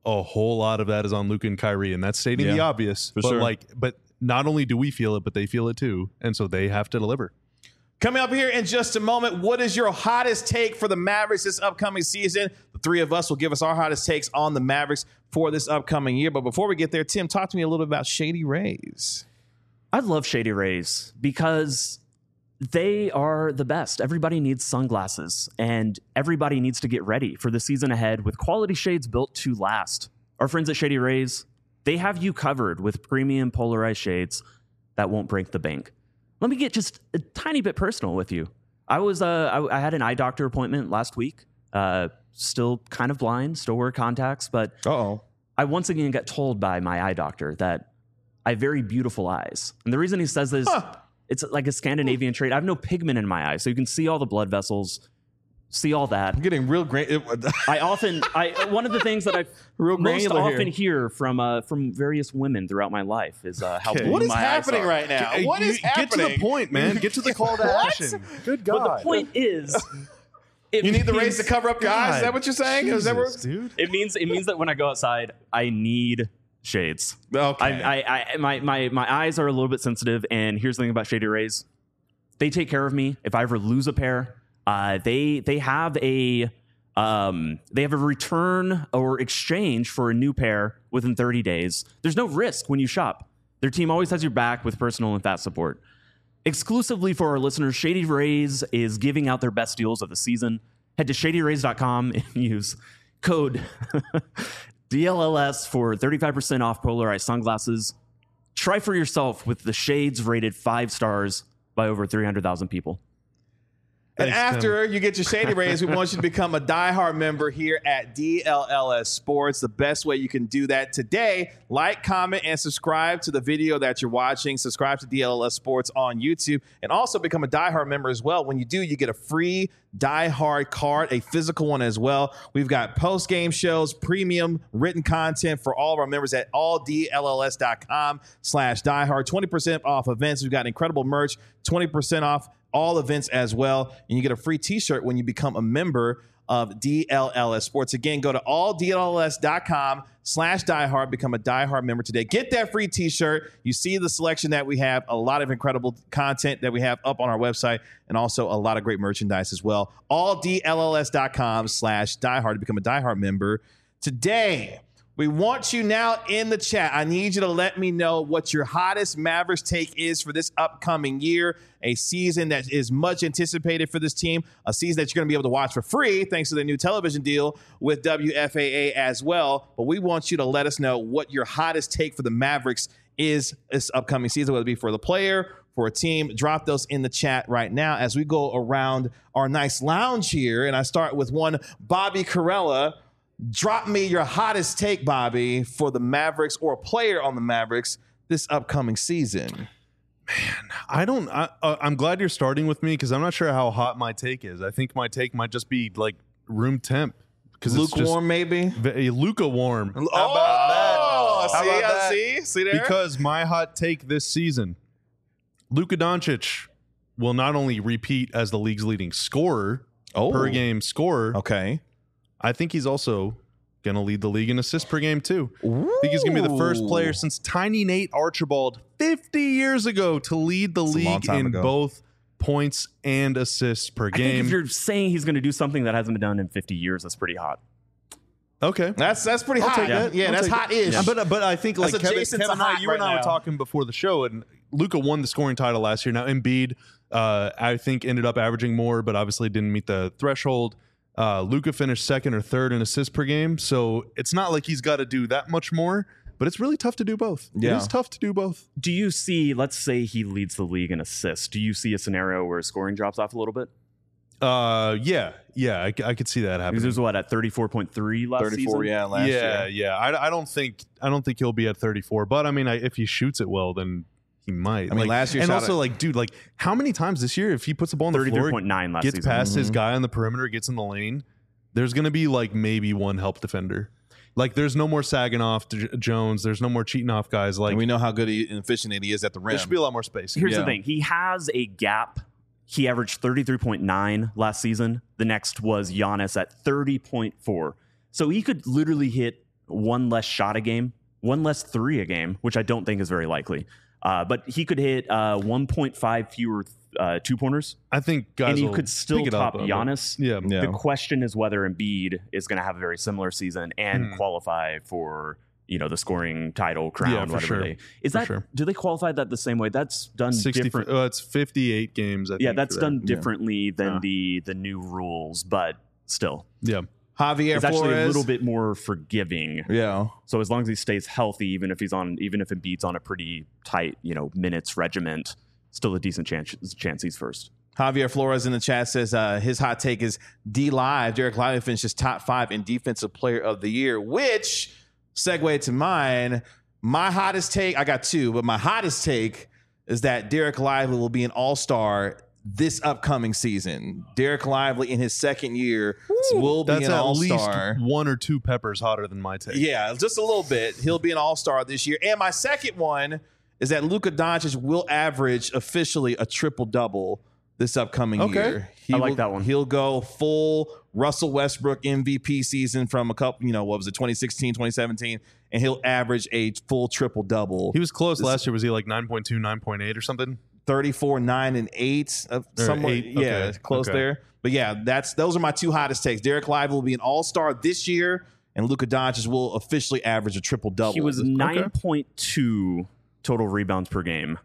a whole lot of that is on Luka and Kyrie, and that's stating Yeah, the obvious. for but sure. like, but not only do we feel it, but they feel it too, and so they have to deliver. Coming up here in just a moment, what is your hottest take for the Mavericks this upcoming season? The three of us will give us our hottest takes on the Mavericks for this upcoming year. But before we get there, Tim, talk to me a little bit about Shady Rays. I love Shady Rays because they are the best. Everybody needs sunglasses, and everybody needs to get ready for the season ahead with quality shades built to last. Our friends at Shady Rays, they have you covered with premium polarized shades that won't break the bank. Let me get just a tiny bit personal with you. I was uh, I, I had an eye doctor appointment last week. Uh, still kind of blind, still wear contacts, but Uh-oh. I once again got told by my eye doctor that I have very beautiful eyes. And the reason he says this, Huh. it's like a Scandinavian trait. I have no pigment in my eyes, so you can see all the blood vessels, see all that. I'm getting real great. I often, I one of the things that I Real most granular often here. hear from uh, from various women throughout my life is uh, how Okay. blue What is my eyes happening are. right now? Hey, What you- is happening? Get to the point, man. Get to the call to What? action. Good God. But the point is, it You need the means- rays to cover up your eyes? Is that what you're saying? Is that Jesus, what- dude. It means it means that when I go outside, I need shades. Okay. I, I, I, my, my, my eyes are a little bit sensitive, and here's the thing about Shady Rays: they take care of me. If I ever lose a pair, uh, they they have a um, they have a return or exchange for a new pair within thirty days. There's no risk when you shop. Their team always has your back with personal and fast support. Exclusively for our listeners, Shady Rays is giving out their best deals of the season. Head to shady rays dot com and use code D L L S for thirty-five percent off polarized sunglasses. Try for yourself with the shades rated five stars by over three hundred thousand people. And Thanks, after you get your Shady Rays, we want you to become a diehard member here at D L L S Sports. The best way you can do that today, like, comment, and subscribe to the video that you're watching. Subscribe to D L L S Sports on YouTube, and also become a diehard member as well. When you do, you get a free diehard card, a physical one as well. We've got post-game shows, premium written content for all of our members at all D L L S dot com slash diehard. twenty percent off events. We've got incredible merch, twenty percent off all events as well, and you get a free t-shirt when you become a member of D L L S Sports. Again, go to all D L L S dot com slash diehard, become a diehard member today. Get that free t-shirt. You see the selection that we have, a lot of incredible content that we have up on our website, and also a lot of great merchandise as well. all D L L S dot com slash diehard to become a diehard member today. We want you now in the chat. I need you to let me know what your hottest Mavericks take is for this upcoming year, a season that is much anticipated for this team, a season that you're going to be able to watch for free thanks to the new television deal with W F A A as well. But we want you to let us know what your hottest take for the Mavericks is this upcoming season, whether it be for the player, for a team. Drop those in the chat right now as we go around our nice lounge here. And I start with one Bobby Carella. Drop me your hottest take, Bobby, for the Mavericks or a player on the Mavericks this upcoming season. I don't. I, uh, I'm glad you're starting with me because I'm not sure how hot my take is. I think my take might just be like room temp because it's Lukewarm, maybe? just v- lukewarm. How Oh, about that? How see, about I that? see, see there? Because my hot take this season, Luka Doncic will not only repeat as the league's leading scorer, Oh. per game scorer. Okay. I think he's also going to lead the league in assists per game, too. I think he's going to be the first player since Tiny Nate Archibald fifty years ago to lead the That's a long league time in ago. both points and assists per I think game. if you're saying he's going to do something that hasn't been done in fifty years, that's pretty hot. Okay. That's that's pretty I'll hot. take that. Yeah, I'll that's take that. hot-ish. Yeah, But but I think like That's Kevin, adjacent to Kevin and I, hot you and right I now. were talking before the show, and Luka won the scoring title last year. Now Embiid, uh, I think, ended up averaging more, but obviously didn't meet the threshold. Uh, Luka finished second or third in assists per game, so it's not like he's got to do that much more. But it's really tough to do both. Yeah. It is tough to do both. Do you see, let's say he leads the league in assists. Do you see a scenario where his scoring drops off a little bit? Uh, yeah, yeah, I, c- I could see that Because happening. he was what, at thirty-four point three last thirty-four, season? yeah, last yeah, year. yeah. I, I don't think I don't think he'll be at thirty-four, but I mean, I, if he shoots it well, then he might. I mean, Like, last year and shot also it- like, dude, like, how many times this year, if he puts the ball on the thirty-three floor, point nine last gets season. past his Mhm. guy on the perimeter, gets in the lane, there's gonna be like maybe one help defender. Like, there's no more sagging off J- Jones. There's no more cheating off guys. Like, And we know how good he, and efficient he is at the rim. there should be a lot more space. Here's Yeah. the thing. He has a gap. He averaged thirty-three point nine last season. The next was Giannis at thirty point four. So he could literally hit one less shot a game, one less three a game, which I don't think is very likely. Uh, but he could hit uh, one point five fewer uh, two pointers. I think guys and he will could still pick it top up, but- Giannis. Yeah. Yeah. The question is whether Embiid is going to have a very similar season and Hmm. qualify for, you know, the scoring title crown, Yeah, for whatever sure. they is For that. sure. Do they qualify that the same way? That's done sixty. different. Uh, it's fifty-eight games. I yeah, think, that's for that. done differently than Yeah. the the new rules, but still, Yeah. Javier it's actually Flores. a little bit more forgiving. Yeah. So as long as he stays healthy, even if he's on, even if Embiid's on a pretty tight, you know, minutes regiment, still a decent chance chance he's first. Javier Flores in the chat says uh, his hot take is D Live. Derek Lively finishes top five in Defensive Player of the Year, which segue to mine. My hottest take, I got two, but my hottest take is that Derek Lively will be an all-star this upcoming season. Derek Lively in his second year will be That's an at all-star. least one or two peppers hotter than my take. Yeah, just a little bit. He'll be an all-star this year. And my second one is that Luka Doncic will average officially a triple-double this upcoming Okay. year. He I like will- that one. He'll go full Russell Westbrook M V P season from a couple, you know, what was it, twenty sixteen, twenty seventeen, and he'll average a full triple-double. He was close This- last year. Was he like nine point two, nine point eight or something? thirty-four, nine, and eight. Of Or somewhere, eight, yeah, okay, close okay. there. But yeah, that's those are my two hottest takes. Derek Lively will be an all-star this year, and Luka Doncic will officially average a triple-double. He was This- nine point two total rebounds per game.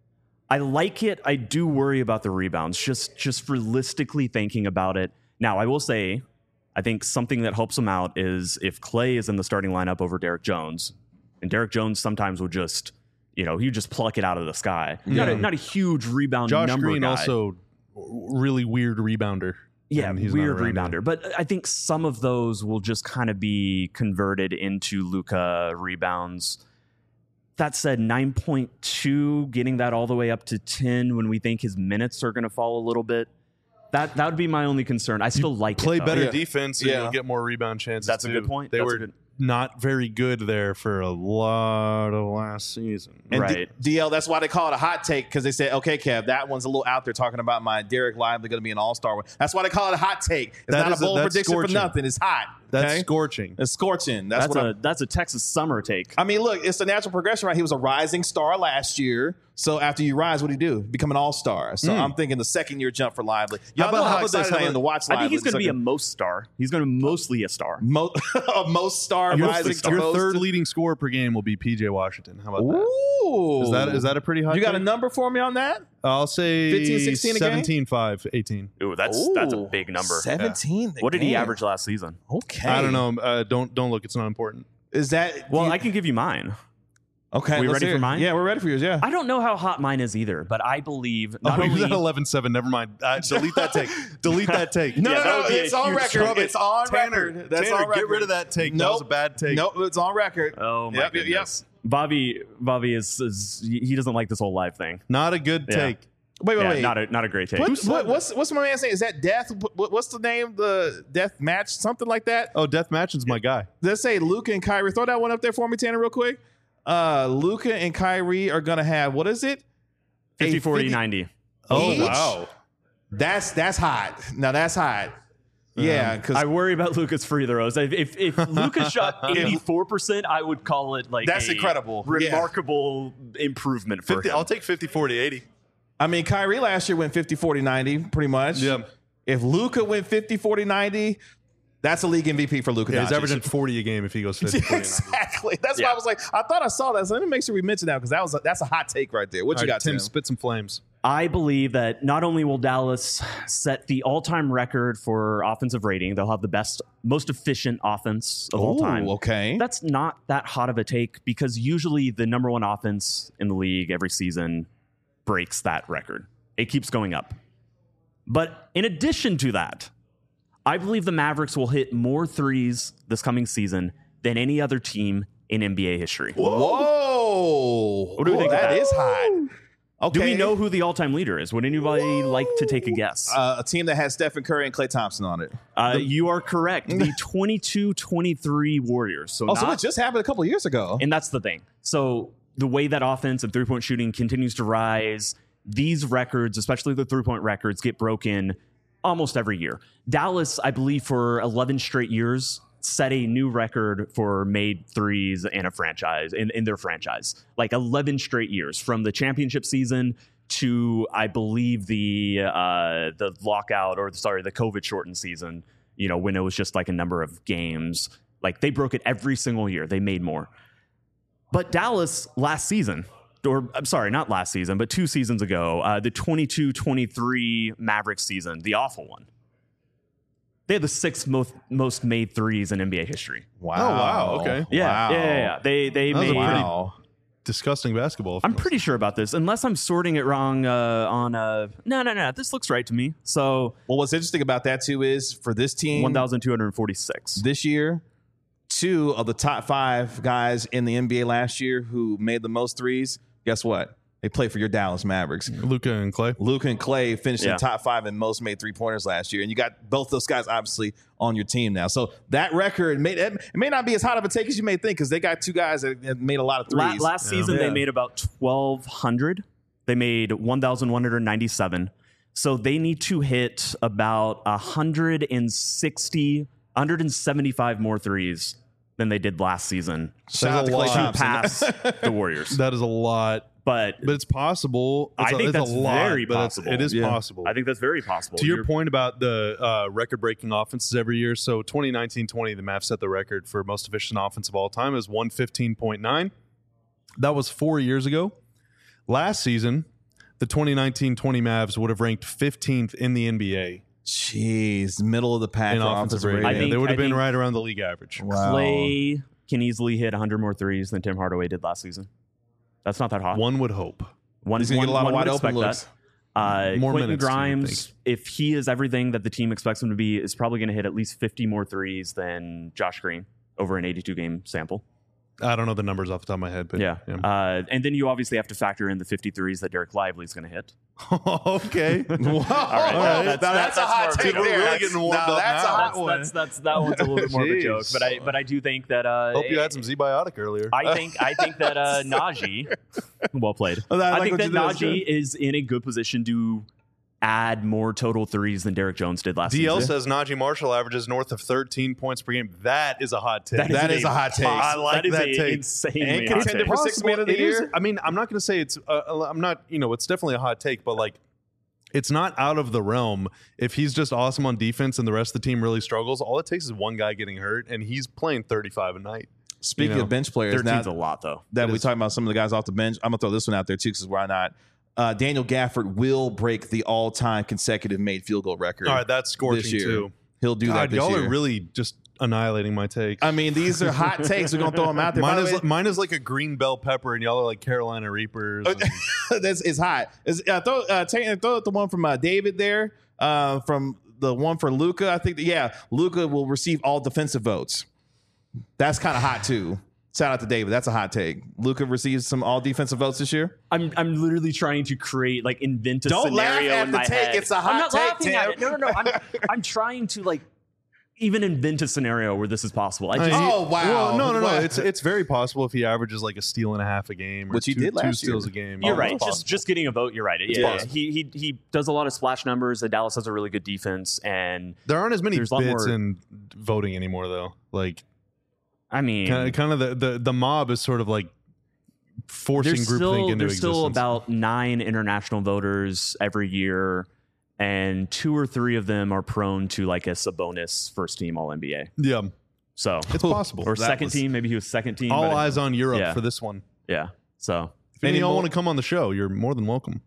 I like it. I do worry about the rebounds, just just realistically thinking about it. Now, I will say, I think something that helps him out is if Clay is in the starting lineup over Derek Jones, and Derek Jones sometimes will just, you know, he just pluck it out of the sky. Not, a, Yeah. not a huge rebound Josh number Green guy. also really weird rebounder. Yeah, and he's not weird around rebounder. But I think some of those will just kind of be converted into Luka rebounds. That said, nine point two, getting that all the way up to ten when we think his minutes are going to fall a little bit. That that would be my only concern. I still like Play it, though. better Yeah. defense and Yeah. you'll get more rebound chances. That's a too. good point. They That's a were good- not very good there for a lot of last season. And Right. D- DL, that's why they call it a hot take, because they said, okay, Kev, that one's a little out there talking about my Derek Lively going to be an all-star. That's why they call it a hot take. It's That not is a a- bold that's prediction scorching. for nothing. It's hot. That's okay? scorching. It's scorching. That's, That's what a I'm, that's a Texas summer take. I mean, look, it's the natural progression, right? He was a rising star last year. So after you rise, what do you do? Become an all-star. So I'm thinking the second year jump for Lively. Y'all How know about- how how about excited this? I How am to about- watch I Lively. think he's going to It's be a like most star. He's going to mostly a star. mo- a most star Your, rising th- star. your most- third leading scorer per game will be P J Washington. How about that? Ooh. Is that is that a pretty high? You got a take? number for me on that? I'll say fifteen, sixteen a game? seventeen, five, eighteen. Ooh, that's that's a big number. seventeen. What did he Damn. average last season? Okay. I don't know. Uh, don't don't look. It's not important. Is that Well, you- I can give you mine. okay? we let's ready hear for it. mine? Yeah, we're ready for yours. Yeah. I don't know how hot mine is either, but I believe not Oh, he was only at eleven seven. Never mind. Uh, delete that take. Delete that take. No, Yeah, no, that no, would be a it's on huge record. struggle. It's on Tanner, record. That's Tanner, on record. get rid of that take. That Nope. was a bad take. Nope, it's on record. Oh my Yep, yep, goodness. Bobby Bobby is, is he doesn't like this whole live thing. Not a good Yeah. take. Wait, wait, Yeah, wait. not a not a great take. What, what, what's what's my man saying? Is that death? What, what's the name? The death match? Something like that? Oh, Death Matching's my guy. Let's say Luka and Kyrie. Throw that one up there for me, Tanner, real quick. Uh, Luka and Kyrie are gonna have what is it? A fifty, forty, fifty ninety. Oh Each? wow. That's that's hot. Now that's hot. Yeah, because I worry about Luca's free throws. If if, if Luca shot eighty-four percent, I would call it like That's a incredible. Yeah. remarkable improvement for fifty, him. I'll take fifty, forty, eighty. I mean, Kyrie last year went fifty, forty, ninety, pretty much. Yeah. If Luka went fifty, forty, ninety, that's a league M V P for Luka. Yeah, he's Doncic. averaging forty a game if he goes fifty, forty, ninety. Exactly. That's why Yeah. I was like, I thought I saw that. So let me make sure we mention that because that was a, that's a hot take right there. What All you right, got, Tim? Tim? Spit some flames. I believe that not only will Dallas set the all-time record for offensive rating, they'll have the best, most efficient offense of all Ooh, time. okay. That's not that hot of a take because usually the number one offense in the league every season breaks that record. It keeps going up. But in addition to that, I believe the Mavericks will hit more threes this coming season than any other team in N B A history. Whoa. What do we think of That that? is hot. Okay. Do we know who the all-time leader is? Would anybody like to take a guess? Uh, a team that has Stephen Curry and Klay Thompson on it. Uh, you are correct. The twenty-two twenty-three Warriors. So Oh, not, so it just happened a couple years ago. and that's the thing. So the way that offense and three-point shooting continues to rise, these records, especially the three-point records, get broken almost every year. Dallas, I believe, for eleven straight years set a new record for made threes in a franchise, in, in their franchise. Like eleven straight years from the championship season to, I believe, the uh, the lockout or sorry, the COVID shortened season, you know, when it was just like a number of games. Like they broke it every single year. They made more. But Dallas last season, or I'm sorry, not last season, but two seasons ago, uh, the twenty-two twenty-three Mavericks season, the awful one. They had the sixth most most made threes in N B A history. Wow. Oh, wow. Okay. Yeah, Wow. yeah, yeah, yeah. They they That was a made. pretty Wow. disgusting basketball. I'm pretty sure about this, unless I'm sorting it wrong uh, on. Uh, no, no, no. This looks right to me. So Well, what's interesting about that too is for this team, one thousand two hundred forty-six. this year, two of the top five guys in the N B A last year who made the most threes, guess what? They play for your Dallas Mavericks. Luka and Clay. Luka and Clay finished in Yeah. the top five in most made three-pointers last year. And you got both those guys obviously on your team now. So that record, may, it may not be as hot of a take as you may think because they got two guys that that made a lot of La- threes. last season, Yeah. they made about twelve hundred. They made one thousand one hundred ninety-seven. So they need to hit about one hundred sixty, one hundred seventy-five more threes than they did last season Shout out That's to a Klay lot. to Thompson. pass the Warriors. That is a lot, But but it's possible. It's I a, think it's that's a lot, very but it's- possible. It is Yeah. possible. I think that's very possible. To your You're- point about the uh, record-breaking offenses every year, so twenty nineteen twenty, the Mavs set the record for most efficient offense of all time is one fifteen point nine. That was four years ago. Last season, the twenty nineteen twenty Mavs would have ranked fifteenth in the N B A Jeez, middle of the pack in for offensive offensive rating. rating. I think- they would have I been think- right around the league average. Wow. Clay can easily hit one hundred more threes than Tim Hardaway did last season. That's not that hot. One would hope. One, He's gonna one, get a lot of one wide would open expect looks. that. Uh, More Quentin minutes, you would Grimes, if he is everything that the team expects him to be, is probably going to hit at least fifty more threes than Josh Green over an eighty-two game sample. I don't know the numbers off the top of my head, but Yeah. Uh, and then you obviously have to factor in the fifty-threes that Derek Lively is going to hit. okay. Whoa. right. Now That's- that's, that's a hot more of a take joke. there. We're really That's- getting warmed now up that's now. a hot That's, one. that's, that's, that one's a little bit more of a joke. Jeez. But I but I do think that uh, Hope you had some Z-Biotic earlier. I think I think that uh, Najee, well played. Well, I I, like think what that you did, that's Najee is in a good position to add more total threes than Derek Jones did last D L season. says Najee Marshall averages north of thirteen points per game. That is a hot take. That is a hot take. I like that is that a take. insanely And hot contender take. for sixth man of the It is- year. I mean, I'm not going to say it's. Uh, I'm not. You know, it's definitely a hot take, but like, it's not out of the realm. If he's just awesome on defense and the rest of the team really struggles, all it takes is one guy getting hurt, and he's playing thirty-five a night. Speaking You know, of bench players, now thirteen's a lot though. that It we is. talking about some of the guys off the bench, I'm gonna throw this one out there too, because why not? Uh, Daniel Gafford will break the all-time consecutive made field goal record. All right, that's this scorching year. too. He'll do that God, this y'all year. are really just annihilating my take. I mean, these are hot takes. We're gonna throw them out there. By Mine the is way, mine is like a green bell pepper, and y'all are like Carolina Reapers. and- That's it's hot. It's, uh, throw uh, take, throw the one from uh, David there. Uh, from the one for Luca, I think. That, yeah, Luca will receive all defensive votes. That's kind of hot too. Shout out to David. That's a hot take. Luca receives some all defensive votes this year. I'm I'm literally trying to create like invent a Don't laugh scenario at in the my take. head. It's a hot I'm not take, laughing at Tim. it. No, no, no. I'm I'm trying to like even invent a scenario where this is possible. I I just mean, he- Oh, wow. Well, no, no, no. Wow. It's it's very possible if he averages like a steal and a half a game, or Which he two, did last two year. steals a game. You're Oh, right. it's Just possible. just getting a vote. You're right. It's Yeah, possible. he he he does a lot of splash numbers. And Dallas has a really good defense, and There aren't as many There's a lot bits more- in voting anymore, though. Like I mean, kind of, kind of the, the the mob is sort of like forcing there's groupthink still into there's existence. still about nine international voters every year, and two or three of them are prone to like a Sabonis first team All N B A. yeah, So it's possible. or That second was- team, maybe he was second team. All but it- eyes on Europe yeah. for this one. yeah. So If any of Any y'all more- want to come on the show, you're more than welcome.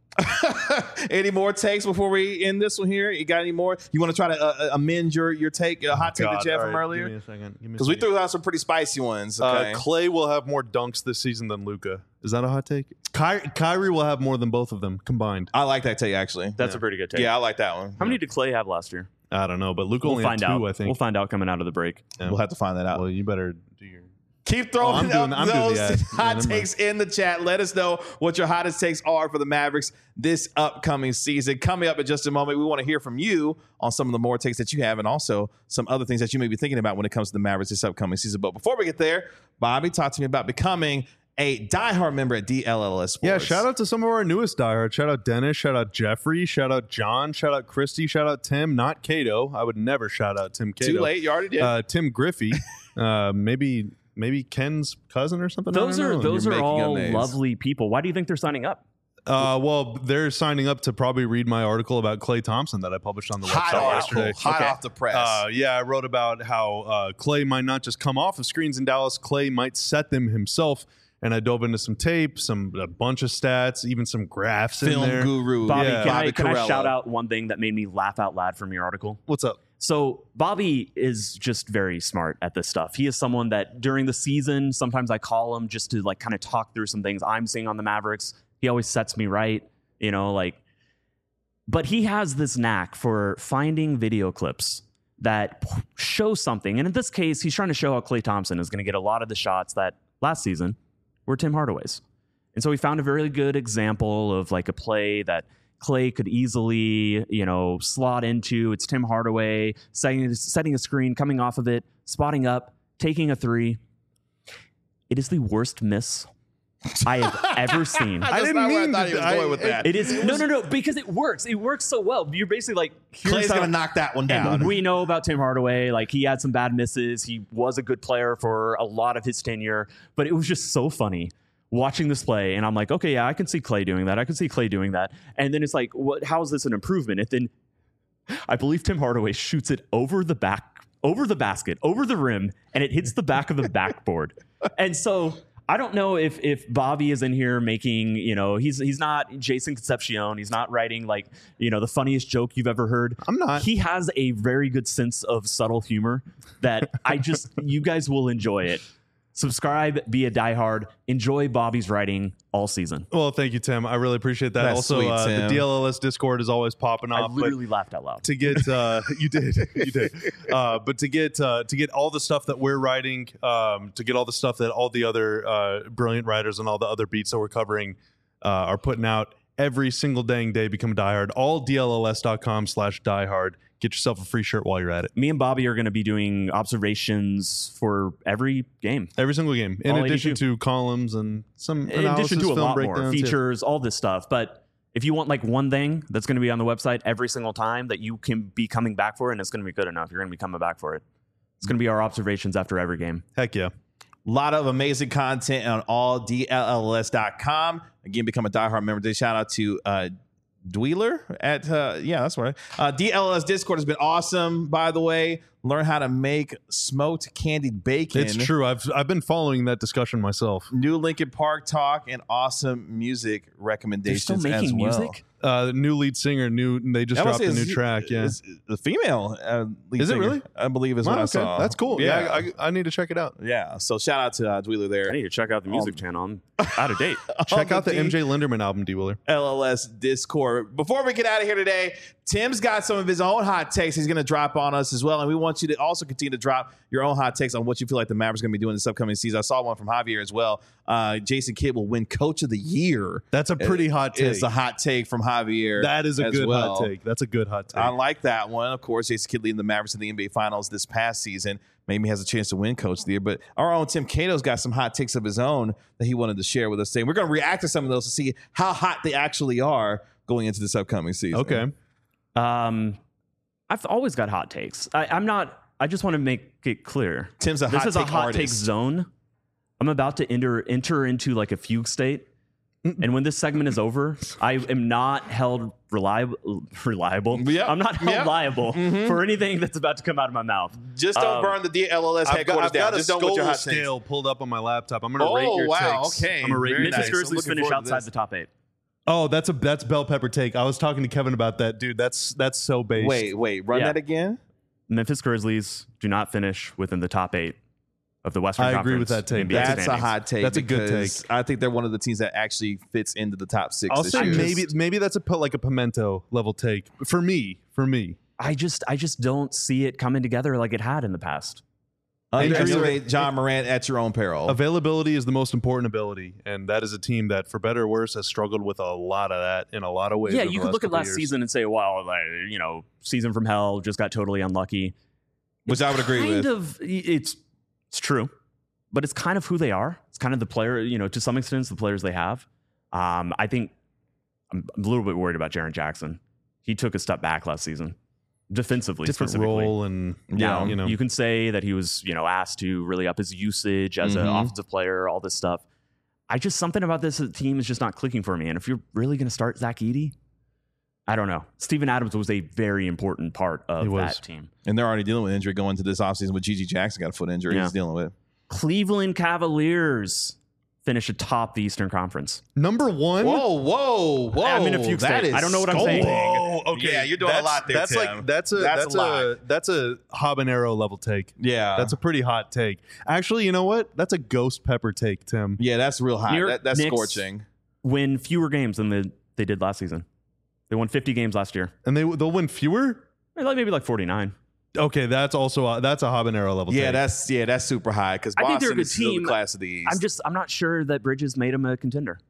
Any more takes before we end this one here? You got any more? You want to try to uh, amend your your take, a hot take that you had from earlier? Give me a second. Give me a Because we second. threw out some pretty spicy ones. Okay. Uh, Clay will have more dunks this season than Luca. Is that a hot take? Ky- Kyrie will have more than both of them combined. I like that take actually. that's a pretty good take. Yeah, I like that one. How many did Clay have last year? I don't know, but Luca We'll only find had two, out. I think. We'll find out coming out of the break. Yeah. We'll have to find that out. Well, you better do your. Keep throwing Oh, I'm up doing- I'm doing those the ad. Yeah, hot never mind. takes in the chat. Let us know what your hottest takes are for the Mavericks this upcoming season. Coming up in just a moment, we want to hear from you on some of the more takes that you have and also some other things that you may be thinking about when it comes to the Mavericks this upcoming season. But before we get there, Bobby, talk to me about becoming a diehard member at D L L S Sports. Yeah, shout out to some of our newest diehards. Shout out Dennis, shout out Jeffrey, shout out John, shout out Christy, shout out Tim, not Cato. I would never shout out Tim Cato. Too late, you already did. Uh, Tim Griffey, uh, maybe maybe Ken's cousin or something. Those I don't are know. those You're are making all up names. lovely people. Why do you think they're signing up? Uh, well, they're signing up to probably read my article about Klay Thompson that I published on the hot website article, yesterday. hot Okay. off the press. Uh, yeah, I wrote about how uh, Klay might not just come off of screens in Dallas. Klay might set them himself. And I dove into some tape, some a bunch of stats, even some graphs in Film there. guru Bobby, Yeah. can, I, Bobby can I Carello. shout out one thing that made me laugh out loud from your article? What's up? So Bobby is just very smart at this stuff. He is someone that during the season, sometimes I call him just to like kind of talk through some things I'm seeing on the Mavericks. He always sets me right, you know, like, but he has this knack for finding video clips that p- show something. And in this case, he's trying to show how Klay Thompson is going to get a lot of the shots that last season were Tim Hardaway's. And so we found a very good example of like a play that Klay could easily, you know, slot into. It's Tim Hardaway setting, setting a screen, coming off of it, spotting up, taking a three. It is the worst miss I have ever seen. That's I didn't not where mean I thought he to- was going I- with that. It is no, no, no, because it works. It works so well. You're basically like, here's Clay's how- going to knock that one down. And we know about Tim Hardaway. Like, he had some bad misses. He was a good player for a lot of his tenure, but it was just so funny watching this play. And I'm like, okay, yeah, I can see Klay doing that. I can see Klay doing that. And then it's like, what? How is this an improvement? And then I believe Tim Hardaway shoots it over the back, over the basket, over the rim, and it hits the back of the backboard. And so I don't know if if Bobby is in here making, you know, he's he's not Jason Concepcion. He's not writing like, you know, the funniest joke you've ever heard. I'm not. He has a very good sense of subtle humor that I just, you guys will enjoy it. Subscribe, be a diehard, enjoy Bobby's writing all season. Well, thank you, Tim. I really appreciate that. That's also, sweet, uh, the Tim. D L L S Discord is always popping I off. but literally laughed out loud. to get uh, you did you did uh, but to get uh, to get all the stuff that we're writing, um, to get all the stuff that all the other uh, brilliant writers and all the other beats that we're covering uh, are putting out every single dang day, become a diehard. All D L L S dot com slash diehard. Get yourself a free shirt while you're at it. Me and Bobby are going to be doing observations for every game. Every single game, in All addition eighty-two. to columns and some In analysis, addition to a film lot more breakdowns, yeah. features, all this stuff. But if you want like one thing that's going to be on the website every single time that you can be coming back for, and it's going to be good enough, you're going to be coming back for it. It's going to be our observations after every game. Heck yeah. A lot of amazing content on all D L L S dot com. Again, become a diehard member. They shout out to uh, Dweeler at, uh, yeah, that's right. Uh, D L L S Discord has been awesome, by the way. Learn how to make smoked candied bacon. It's true. I've I've been following that discussion myself. New Linkin Park talk and awesome music They're recommendations still making as well. music? Uh, new lead singer, new they just I was dropped a saying, new is- track. Yeah, is the female uh, lead Is it singer, really? I believe is Wow, what I okay. saw. That's cool. Yeah, Yeah, I, I need to check it out. yeah. So shout out to uh, Dweeler there. I need to check out the music Um, channel. I'm out of date. Check On out the D- M J Linderman album, D Willer. L L S Discord. Before we get out of here today, Tim's got some of his own hot takes he's going to drop on us as well. And we want you to also continue to drop your own hot takes on what you feel like the Mavericks are going to be doing this upcoming season. I saw one from Javier as well. Uh, Jason Kidd will win Coach of the Year. That's a pretty hot take. It's a hot take from Javier. That is a as good well. hot take. That's a good hot take. I like that one. Of course, Jason Kidd leading the Mavericks in the N B A Finals this past season. Maybe he has a chance to win Coach of the Year. But our own Tim Cato's got some hot takes of his own that he wanted to share with us today. We're going to react to some of those to see how hot they actually are going into this upcoming season. okay. Um, I've always got hot takes. I, I'm not. I just want to make it clear. Tim's a This hot is a take hot artist. take zone. I'm about to enter enter into like a fugue state, and when this segment is over, I am not held reliable. Reliable. Yep. I'm not held Yep. liable for anything that's about to come out of my mouth. Just don't Um, burn the D L L S I've got, headquarters I've got down. a Just don't with your Skolo hot takes. scale pulled up on my laptop. I'm going to Oh, rate your wow. takes. Okay. I'm going to rate Very your nice. Memphis takes. I'm Grizzlies looking finish forward to outside this. the top eight. Oh, that's a that's bell pepper take. I was talking to Kevin about that, dude. That's that's so based. Wait, wait. Run Yeah. that again? Memphis Grizzlies do not finish within the top eight of the Western I Conference. agree with that take. N B A That's a standings. hot take. That's a good because take. I think they're one of the teams that actually fits into the top six. I'll this say year. maybe maybe that's a put like a pimento level take for me. For me, I just I just don't see it coming together like it had in the past. Underestimate John Morant at your own peril. availability is the most important ability, and that is a team that, for better or worse, has struggled with a lot of that in a lot of ways. Yeah, over you the could look at couple last years. season and say, "Well, like, you know, season from hell just got totally unlucky." Which I would agree kind with. of, it's it's true. but it's kind of who they are. It's kind of the player, you know, to some extent, it's the players they have. Um, I think I'm, I'm a little bit worried about Jaren Jackson. He took a step back last season, defensively, Different specifically. role and Now, you know, you can say that he was, you know, asked to really up his usage as Mhm. an offensive player, all this stuff. I just, something about this team is just not clicking for me. And if you're really going to start Zach Edey, I don't know. Steven Adams was a very important part of He was. that team. And they're already dealing with injury going into this offseason with G G Jackson got a foot injury Yeah. he's dealing with. Cleveland Cavaliers finish atop the Eastern Conference. number one. Whoa, whoa, whoa. I'm in a fugue That state. is I don't know what I'm saying. scolding. Whoa, okay. Yeah, you're doing a that's, lot there, That's Tim. like that's a That's that's, a a, lot. that's a habanero level take. Yeah. That's a pretty hot take. Actually, you know what? That's a ghost pepper take, Tim. yeah, that's real hot. New York That, that's Knicks scorching. Win fewer games than the, they did last season. They won fifty games last year. And they they'll win fewer. Like maybe like forty-nine. Okay, that's also a, that's a habanero level Yeah, take. that's yeah, that's super high because I think they're a Boston good is still the team. class of the East. I'm just I'm not sure that Bridges made him a contender.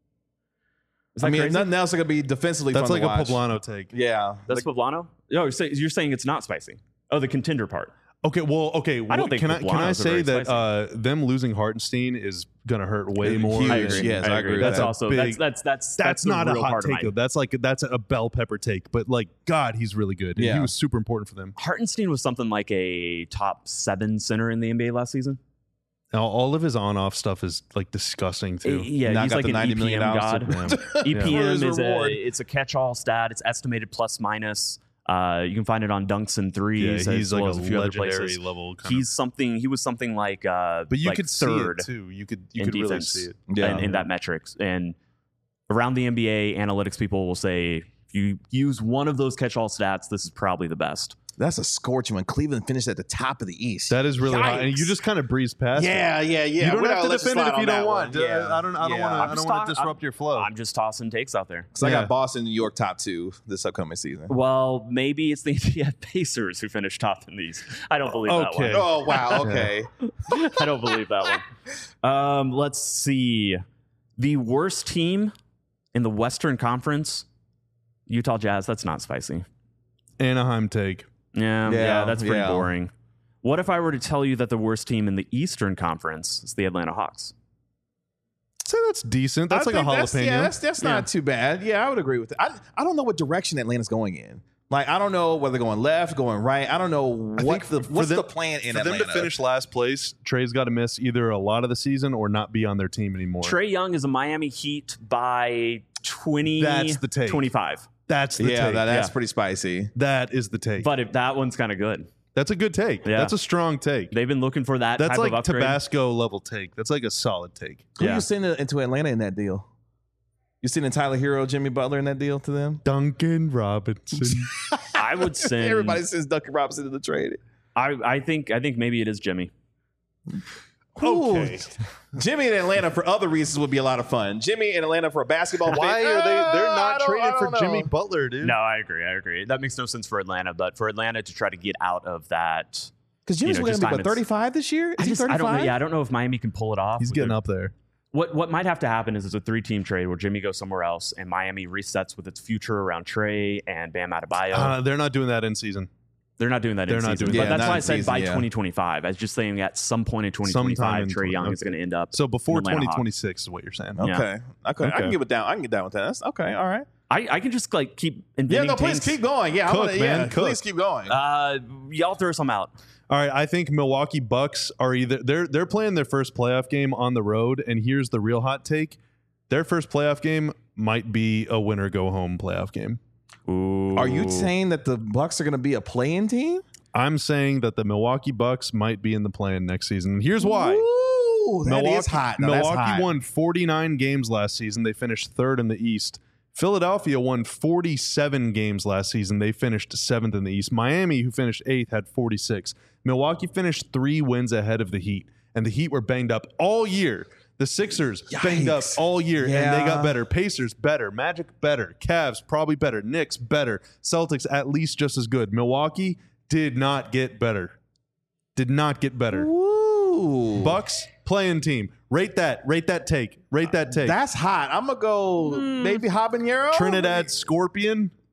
Is that I mean, crazy? nothing else is gonna be defensively that's fun like to a watch. poblano take. Yeah, That's like, Poblano? No, you're saying, you're saying it's not spicy. Oh, the contender part. Okay, well, okay. I don't wh- think can I can I Poblano's a say very that spicy. uh, them losing Hartenstein is gonna hurt way Huge. more? I than- agree. Yes, I agree with That's that. also Big- that's that's that's That's, the not a real hot part of take my- though. That's like that's a bell pepper take. But like, God, he's really good. And Yeah. he was super important for them. Hartenstein was something like a top seven center in the N B A last season. Now, all of his on-off stuff is like disgusting too. Uh, Yeah, Now he's got like the an ninety million E P M dollars god. to- E P For M his is a reward. it's a catch-all stat. It's estimated plus minus. Uh, you can find it on dunks and Yeah, threes. he's as like well a as a few other legendary places. level. Kind He's something. He was something like. Uh, but you like could third see it too. You could you in could really defense see it. Yeah. in, in that metrics. And around the N B A, analytics people will say if you use one of those catch-all stats, this is probably the best. that's a scorching when Cleveland finished at the top of the East. That is really hot, and Yikes. you just kind of breeze past. yeah, it. yeah, yeah. You don't We're have not to gonna let defend it slide if you on don't that want. one. Uh, Yeah. I don't. I don't Yeah. want to. I I'm don't just want talk- to disrupt your flow. I'm just tossing takes out there. Because I Yeah. got Boston, New York top two this upcoming season. Well, maybe it's the Indiana Pacers who finished top in these. I don't believe Okay. that one. Oh wow, okay. I don't believe that one. Um, let's see. The worst team in the Western Conference, Utah Jazz. That's not spicy. Anaheim take. Yeah, yeah, Yeah, that's pretty yeah. boring. What if I were to tell you that the worst team in the Eastern Conference is the Atlanta Hawks? Say that's decent. That's I like a think that's- jalapeno. Yeah, that's, that's Yeah. not too bad. Yeah, I would agree with it. I, I don't know what direction Atlanta's going in. Like, I don't know whether they're going left, going right. I don't know I what think the for what's them- the plan in For Atlanta. them to finish last place, Trey's got to miss either a lot of the season or not be on their team anymore. Trey Young is a Miami Heat by twenty. That's the take. twenty-five. That's the yeah, take. that, that's Yeah. pretty spicy. that is the take. But if that one's kind of good. That's a good take. Yeah. That's a strong take. They've been looking for that That's type like of upgrade. Tabasco level take. That's like a solid take. Who Yeah. you sending into Atlanta in that deal? You sending Tyler Hero, Jimmy Butler in that deal to them? Duncan Robinson. I would send. Everybody sends Duncan Robinson to the trade. I, I think I think maybe it is Jimmy. Okay. Jimmy in Atlanta for other reasons would be a lot of fun. Jimmy in Atlanta for a basketball. Why thing, are they? They're uh, I not don't- I trading don't for know. Jimmy Butler, dude. No, I agree. I agree. That makes no sense for Atlanta, but for Atlanta to try to get out of that, Because Jimmy's you know, going just to be time what, it's- thirty-five this year? Is I he just I thirty-five? don't know. Yeah, I don't know if Miami can pull it off. He's with getting their- up there. What what might have to happen is it's a three team trade where Jimmy goes somewhere else and Miami resets with its future around Trey and Bam Adebayo. Uh, they're not doing that in season. They're not doing that they're in not season. doing But that. that's Yeah, why not I in said season, by yeah. twenty twenty-five. I was just saying at some point in twenty twenty-five, Sometime in Trey Young twenty- is going to end up. So before Atlanta twenty Hawks. twenty-six is what you're saying. Okay. Yeah. Okay. I Okay. can get with down. I can get down with that. That's okay. All right. I, I can just like keep Yeah, inventing no, please things. keep going. Yeah, Cook, I'm gonna, man, yeah, cook. please keep going. Uh, y'all throw some out. All right, I think Milwaukee Bucks are either they're they're playing their first playoff game on the road, and here's the real hot take: their first playoff game might be a winner go home playoff game. Ooh. Are you saying that the Bucks are going to be a play-in team? I'm saying that the Milwaukee Bucks might be in the play-in next season. Here's why. Ooh, that Milwaukee, is hot. No, that's Milwaukee hot. won forty-nine games last season. They finished third in the East. Philadelphia won forty-seven games last season. They finished seventh in the East. Miami, who finished eighth, had forty-six. Milwaukee finished three wins ahead of the Heat, and the Heat were banged up all year. The Sixers banged up Yikes. all year, and they Yeah. got better. Pacers better. Magic better. Cavs probably better. Knicks better. Celtics at least just as good. Milwaukee did not get better. Did not get better. Ooh. Bucks playing team. Rate that. Rate that take. Rate that take. That's hot. I'm going to go maybe habanero. Trinidad Scorpion.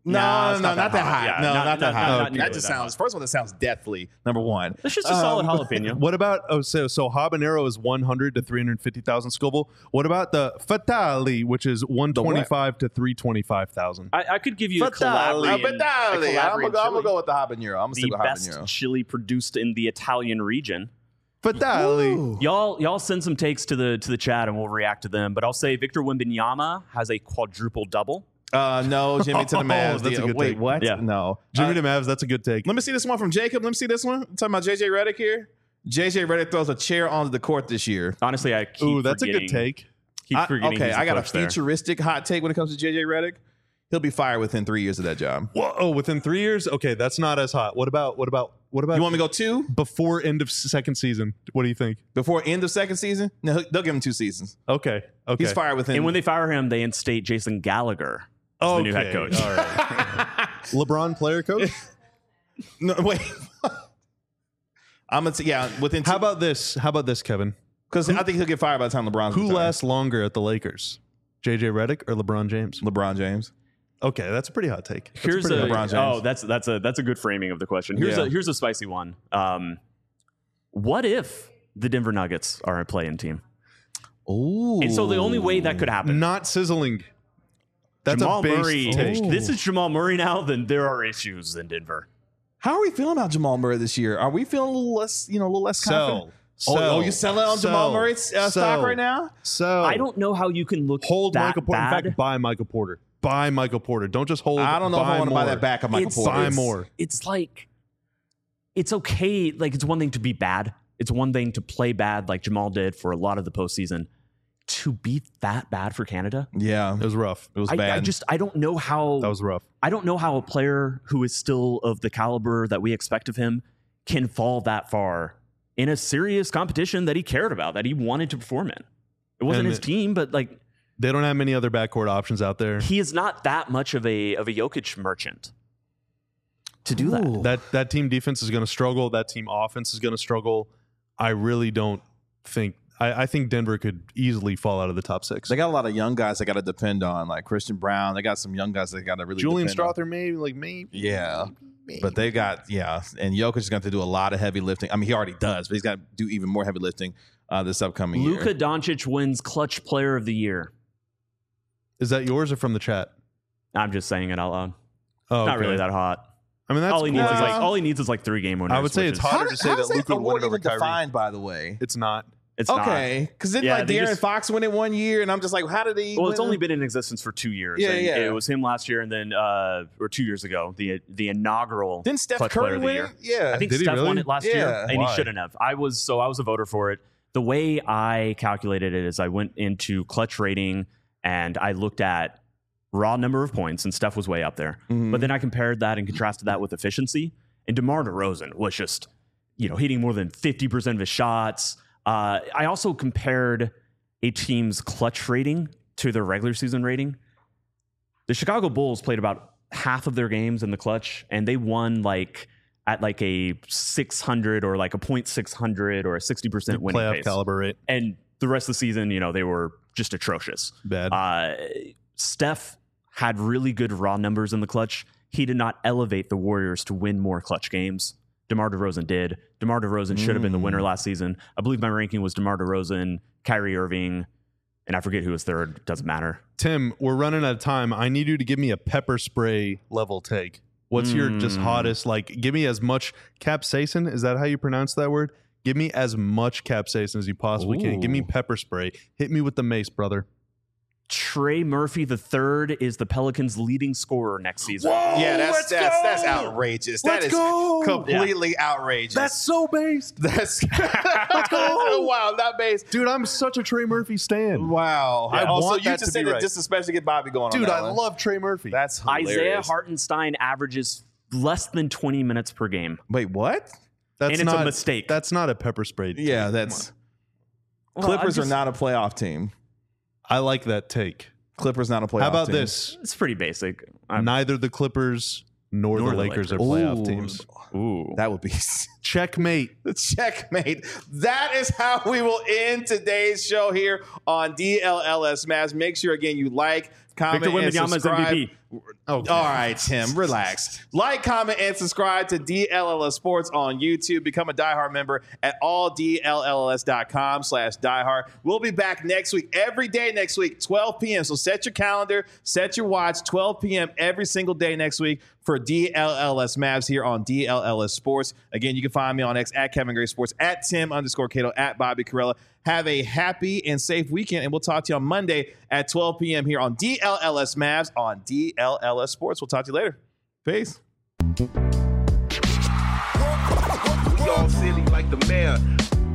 No, Nah, it's no, not not that that high. hot. No, Yeah, not, not- that not- high. not that nearly just that sounds. First one, that sounds deathly. Number one. It's just a solid jalapeno. What about oh so so habanero is one hundred to three hundred fifty thousand Scoville. What about the fatale, which is one twenty-five to three twenty-five thousand? I, I could give you a Fatale. Uh, Calabrian, but a nah, I'm Calabrian gonna go, I'm gonna chili. go with the habanero. I'm gonna stick the with best habanero. chili produced in the Italian region. Fatale. Y'all, y'all send some takes to the to the chat and we'll react to them. But I'll say Victor Wembanyama has a quadruple double. Uh, no, Jimmy to the Oh, Mavs. that's The- a good wait, take. what? Yeah. No, Jimmy Uh, to Mavs, that's a good take. Let me see this one from Jacob. Let me see this one. I'm talking about J J Redick here. J J Redick throws a chair onto the court this year. Honestly, I keep Ooh, that's a good forgetting- take. Keep I- forgetting okay, he's the I got a coach there. futuristic hot take when it comes to J J Redick. He'll be fired within three years of that job. Whoa, oh, within three years? Okay, that's not as hot. What about what about what about You want me to go two before end of second season? What do you think? before end of second season? No, they'll give him two seasons. Okay, okay. He's fired within. And when they fire him, they instate Jason Gallagher as the new head Okay, coach. All right. LeBron player coach. no, wait, I'm gonna say yeah within. Two, How about this? How about this, Kevin? because I think he'll get fired by the time LeBron's Who retired. lasts longer at the Lakers? J J Redick or LeBron James? LeBron James. Okay, that's a pretty hot take. That's Here's pretty a hot LeBron take. James. oh that's that's a that's a good framing of the question. Here's Yeah. a here's a spicy one. Um, what if the Denver Nuggets are a play-in team? Ooh. And so the only way that could happen, Not sizzling. That's Jamal a base Murray. take. This is Jamal Murray now. Then there are issues in Denver. How are we feeling about Jamal Murray this year? Are we feeling a little less, you know, a little less confident? Sell. Oh, Sell. oh, you selling on Jamal Sell. Murray's uh, stock Sell. right now? So I don't know how you can look hold that Michael Porter. bad. In fact, buy Michael Porter. Buy Michael Porter. Don't just hold. I don't know if I buy want to buy more. that back of Michael It's- Porter. Buy it's- more. It's like it's okay. Like it's one thing to be bad. It's one thing to play bad, like Jamal did for a lot of the postseason. To be that bad for Canada, Yeah, It was rough. it was I, bad. I just I don't know how That was rough. I don't know how a player who is still of the caliber that we expect of him can fall that far in a serious competition that he cared about, that he wanted to perform in. It wasn't And his it- team, but like They don't have many other backcourt options out there. he is not that much of a of a Jokic merchant to do that. Ooh. That that team defense is going to struggle. That team offense is going to struggle. I really don't think. I, I think Denver could easily fall out of the top six. They got a lot of young guys they got to depend on, like Christian Brown. They got some young guys they got to really Julian depend on. Strother, maybe like maybe. Yeah, but they got yeah, and Jokic is going to have to do a lot of heavy lifting. I mean, he already does, but he's got to do even more heavy lifting uh, this upcoming Luka year. Doncic wins clutch player of the year. Is that yours or from the chat? I'm just saying it out loud. Oh, Not okay. really that hot. I mean, that's all he cool. needs is cool. like all he needs is like three game winners. I would say which it's is- hot. harder How to does- say how that is Luka would award win over even Kyrie. defined, by the way? It's not. It's not. Okay, because then Yeah, like they De'Aaron just- Fox win it one year, and I'm just like, how did he? Well, win it's only it? been in existence for two years. Yeah, and yeah. It was him last year, and then uh, or two years ago, the the inaugural. Didn't Steph clutch player Curry of the win year. it? Yeah, I think Did he Steph really? won it last Yeah. year, and Why? he shouldn't have. I was so I was a voter for it. The way I calculated it is I went into clutch rating and I looked at raw number of points, and Steph was way up there. Mhm. But then I compared that and contrasted that with efficiency, and DeMar DeRozan was just, you know, hitting more than fifty percent of his shots. Uh, I also compared a team's clutch rating to their regular season rating. The Chicago Bulls played about half of their games in the clutch, and they won like at like a six hundred or like a point six hundred or a sixty percent winning Playoff pace. caliber rate. And the rest of the season, you know, they were just atrocious. Bad. Uh, Steph had really good raw numbers in the clutch. He did not elevate the Warriors to win more clutch games. DeMar DeRozan did. DeMar DeRozan should have been the winner last season. I believe my ranking was DeMar DeRozan, Kyrie Irving, and I forget who was third. Doesn't matter. Tim, we're running out of time. I need you to give me a pepper spray level take. What's your just Mm. hottest? Like, give me as much capsaicin. Is that how you pronounce that word? Give me as much capsaicin as you possibly can. Give me Ooh. pepper spray. Hit me with the mace, brother. Trey Murphy the third is the Pelicans' leading scorer next season. yeah, that's let's that's go! that's outrageous. That Let's is go! completely outrageous. so based. that's let's go! wow, not based. Dude, I'm such a Trey Murphy stan. Wow. I also, want you that just to be said it right. just especially get Bobby going. Dude, on that I one. love Trey Murphy. That's hilarious. Isaiah Hartenstein averages less than twenty minutes per game. Wait, what? That's and it's a not, mistake. That's not a pepper spray. take. Yeah, Come that's Well, Clippers I'm just- are not a playoff team. on. I like that take. Clippers not a playoff. How about team. this? It's pretty basic. I'm- Neither the Clippers nor, Nor the the Lakers, are Lakers. playoff Ooh. teams. Ooh. That would be Checkmate. checkmate. That is how we will end today's show here on D L L S Mavs. Make sure again you like, comment, Victor and Wembanyama is subscribe. M V P. Okay. All right, Tim, relax. Like, comment, and subscribe to D L L S Sports on YouTube. Become a diehard member at all D L L S dot com slash diehard. We'll be back next week, every day next week, twelve p.m. So set your calendar, set your watch, twelve p.m. every single day next week for D L L S Mavs here on D L L S Sports. Again, you can find me on X at Kevin Gray Sports, at Tim underscore Cato, at Bobby Carella. Have a happy and safe weekend, and we'll talk to you on Monday at twelve p.m. here on D L L S Mavs on D L L S Sports. We'll talk to you later. Peace. We all silly like the mayor.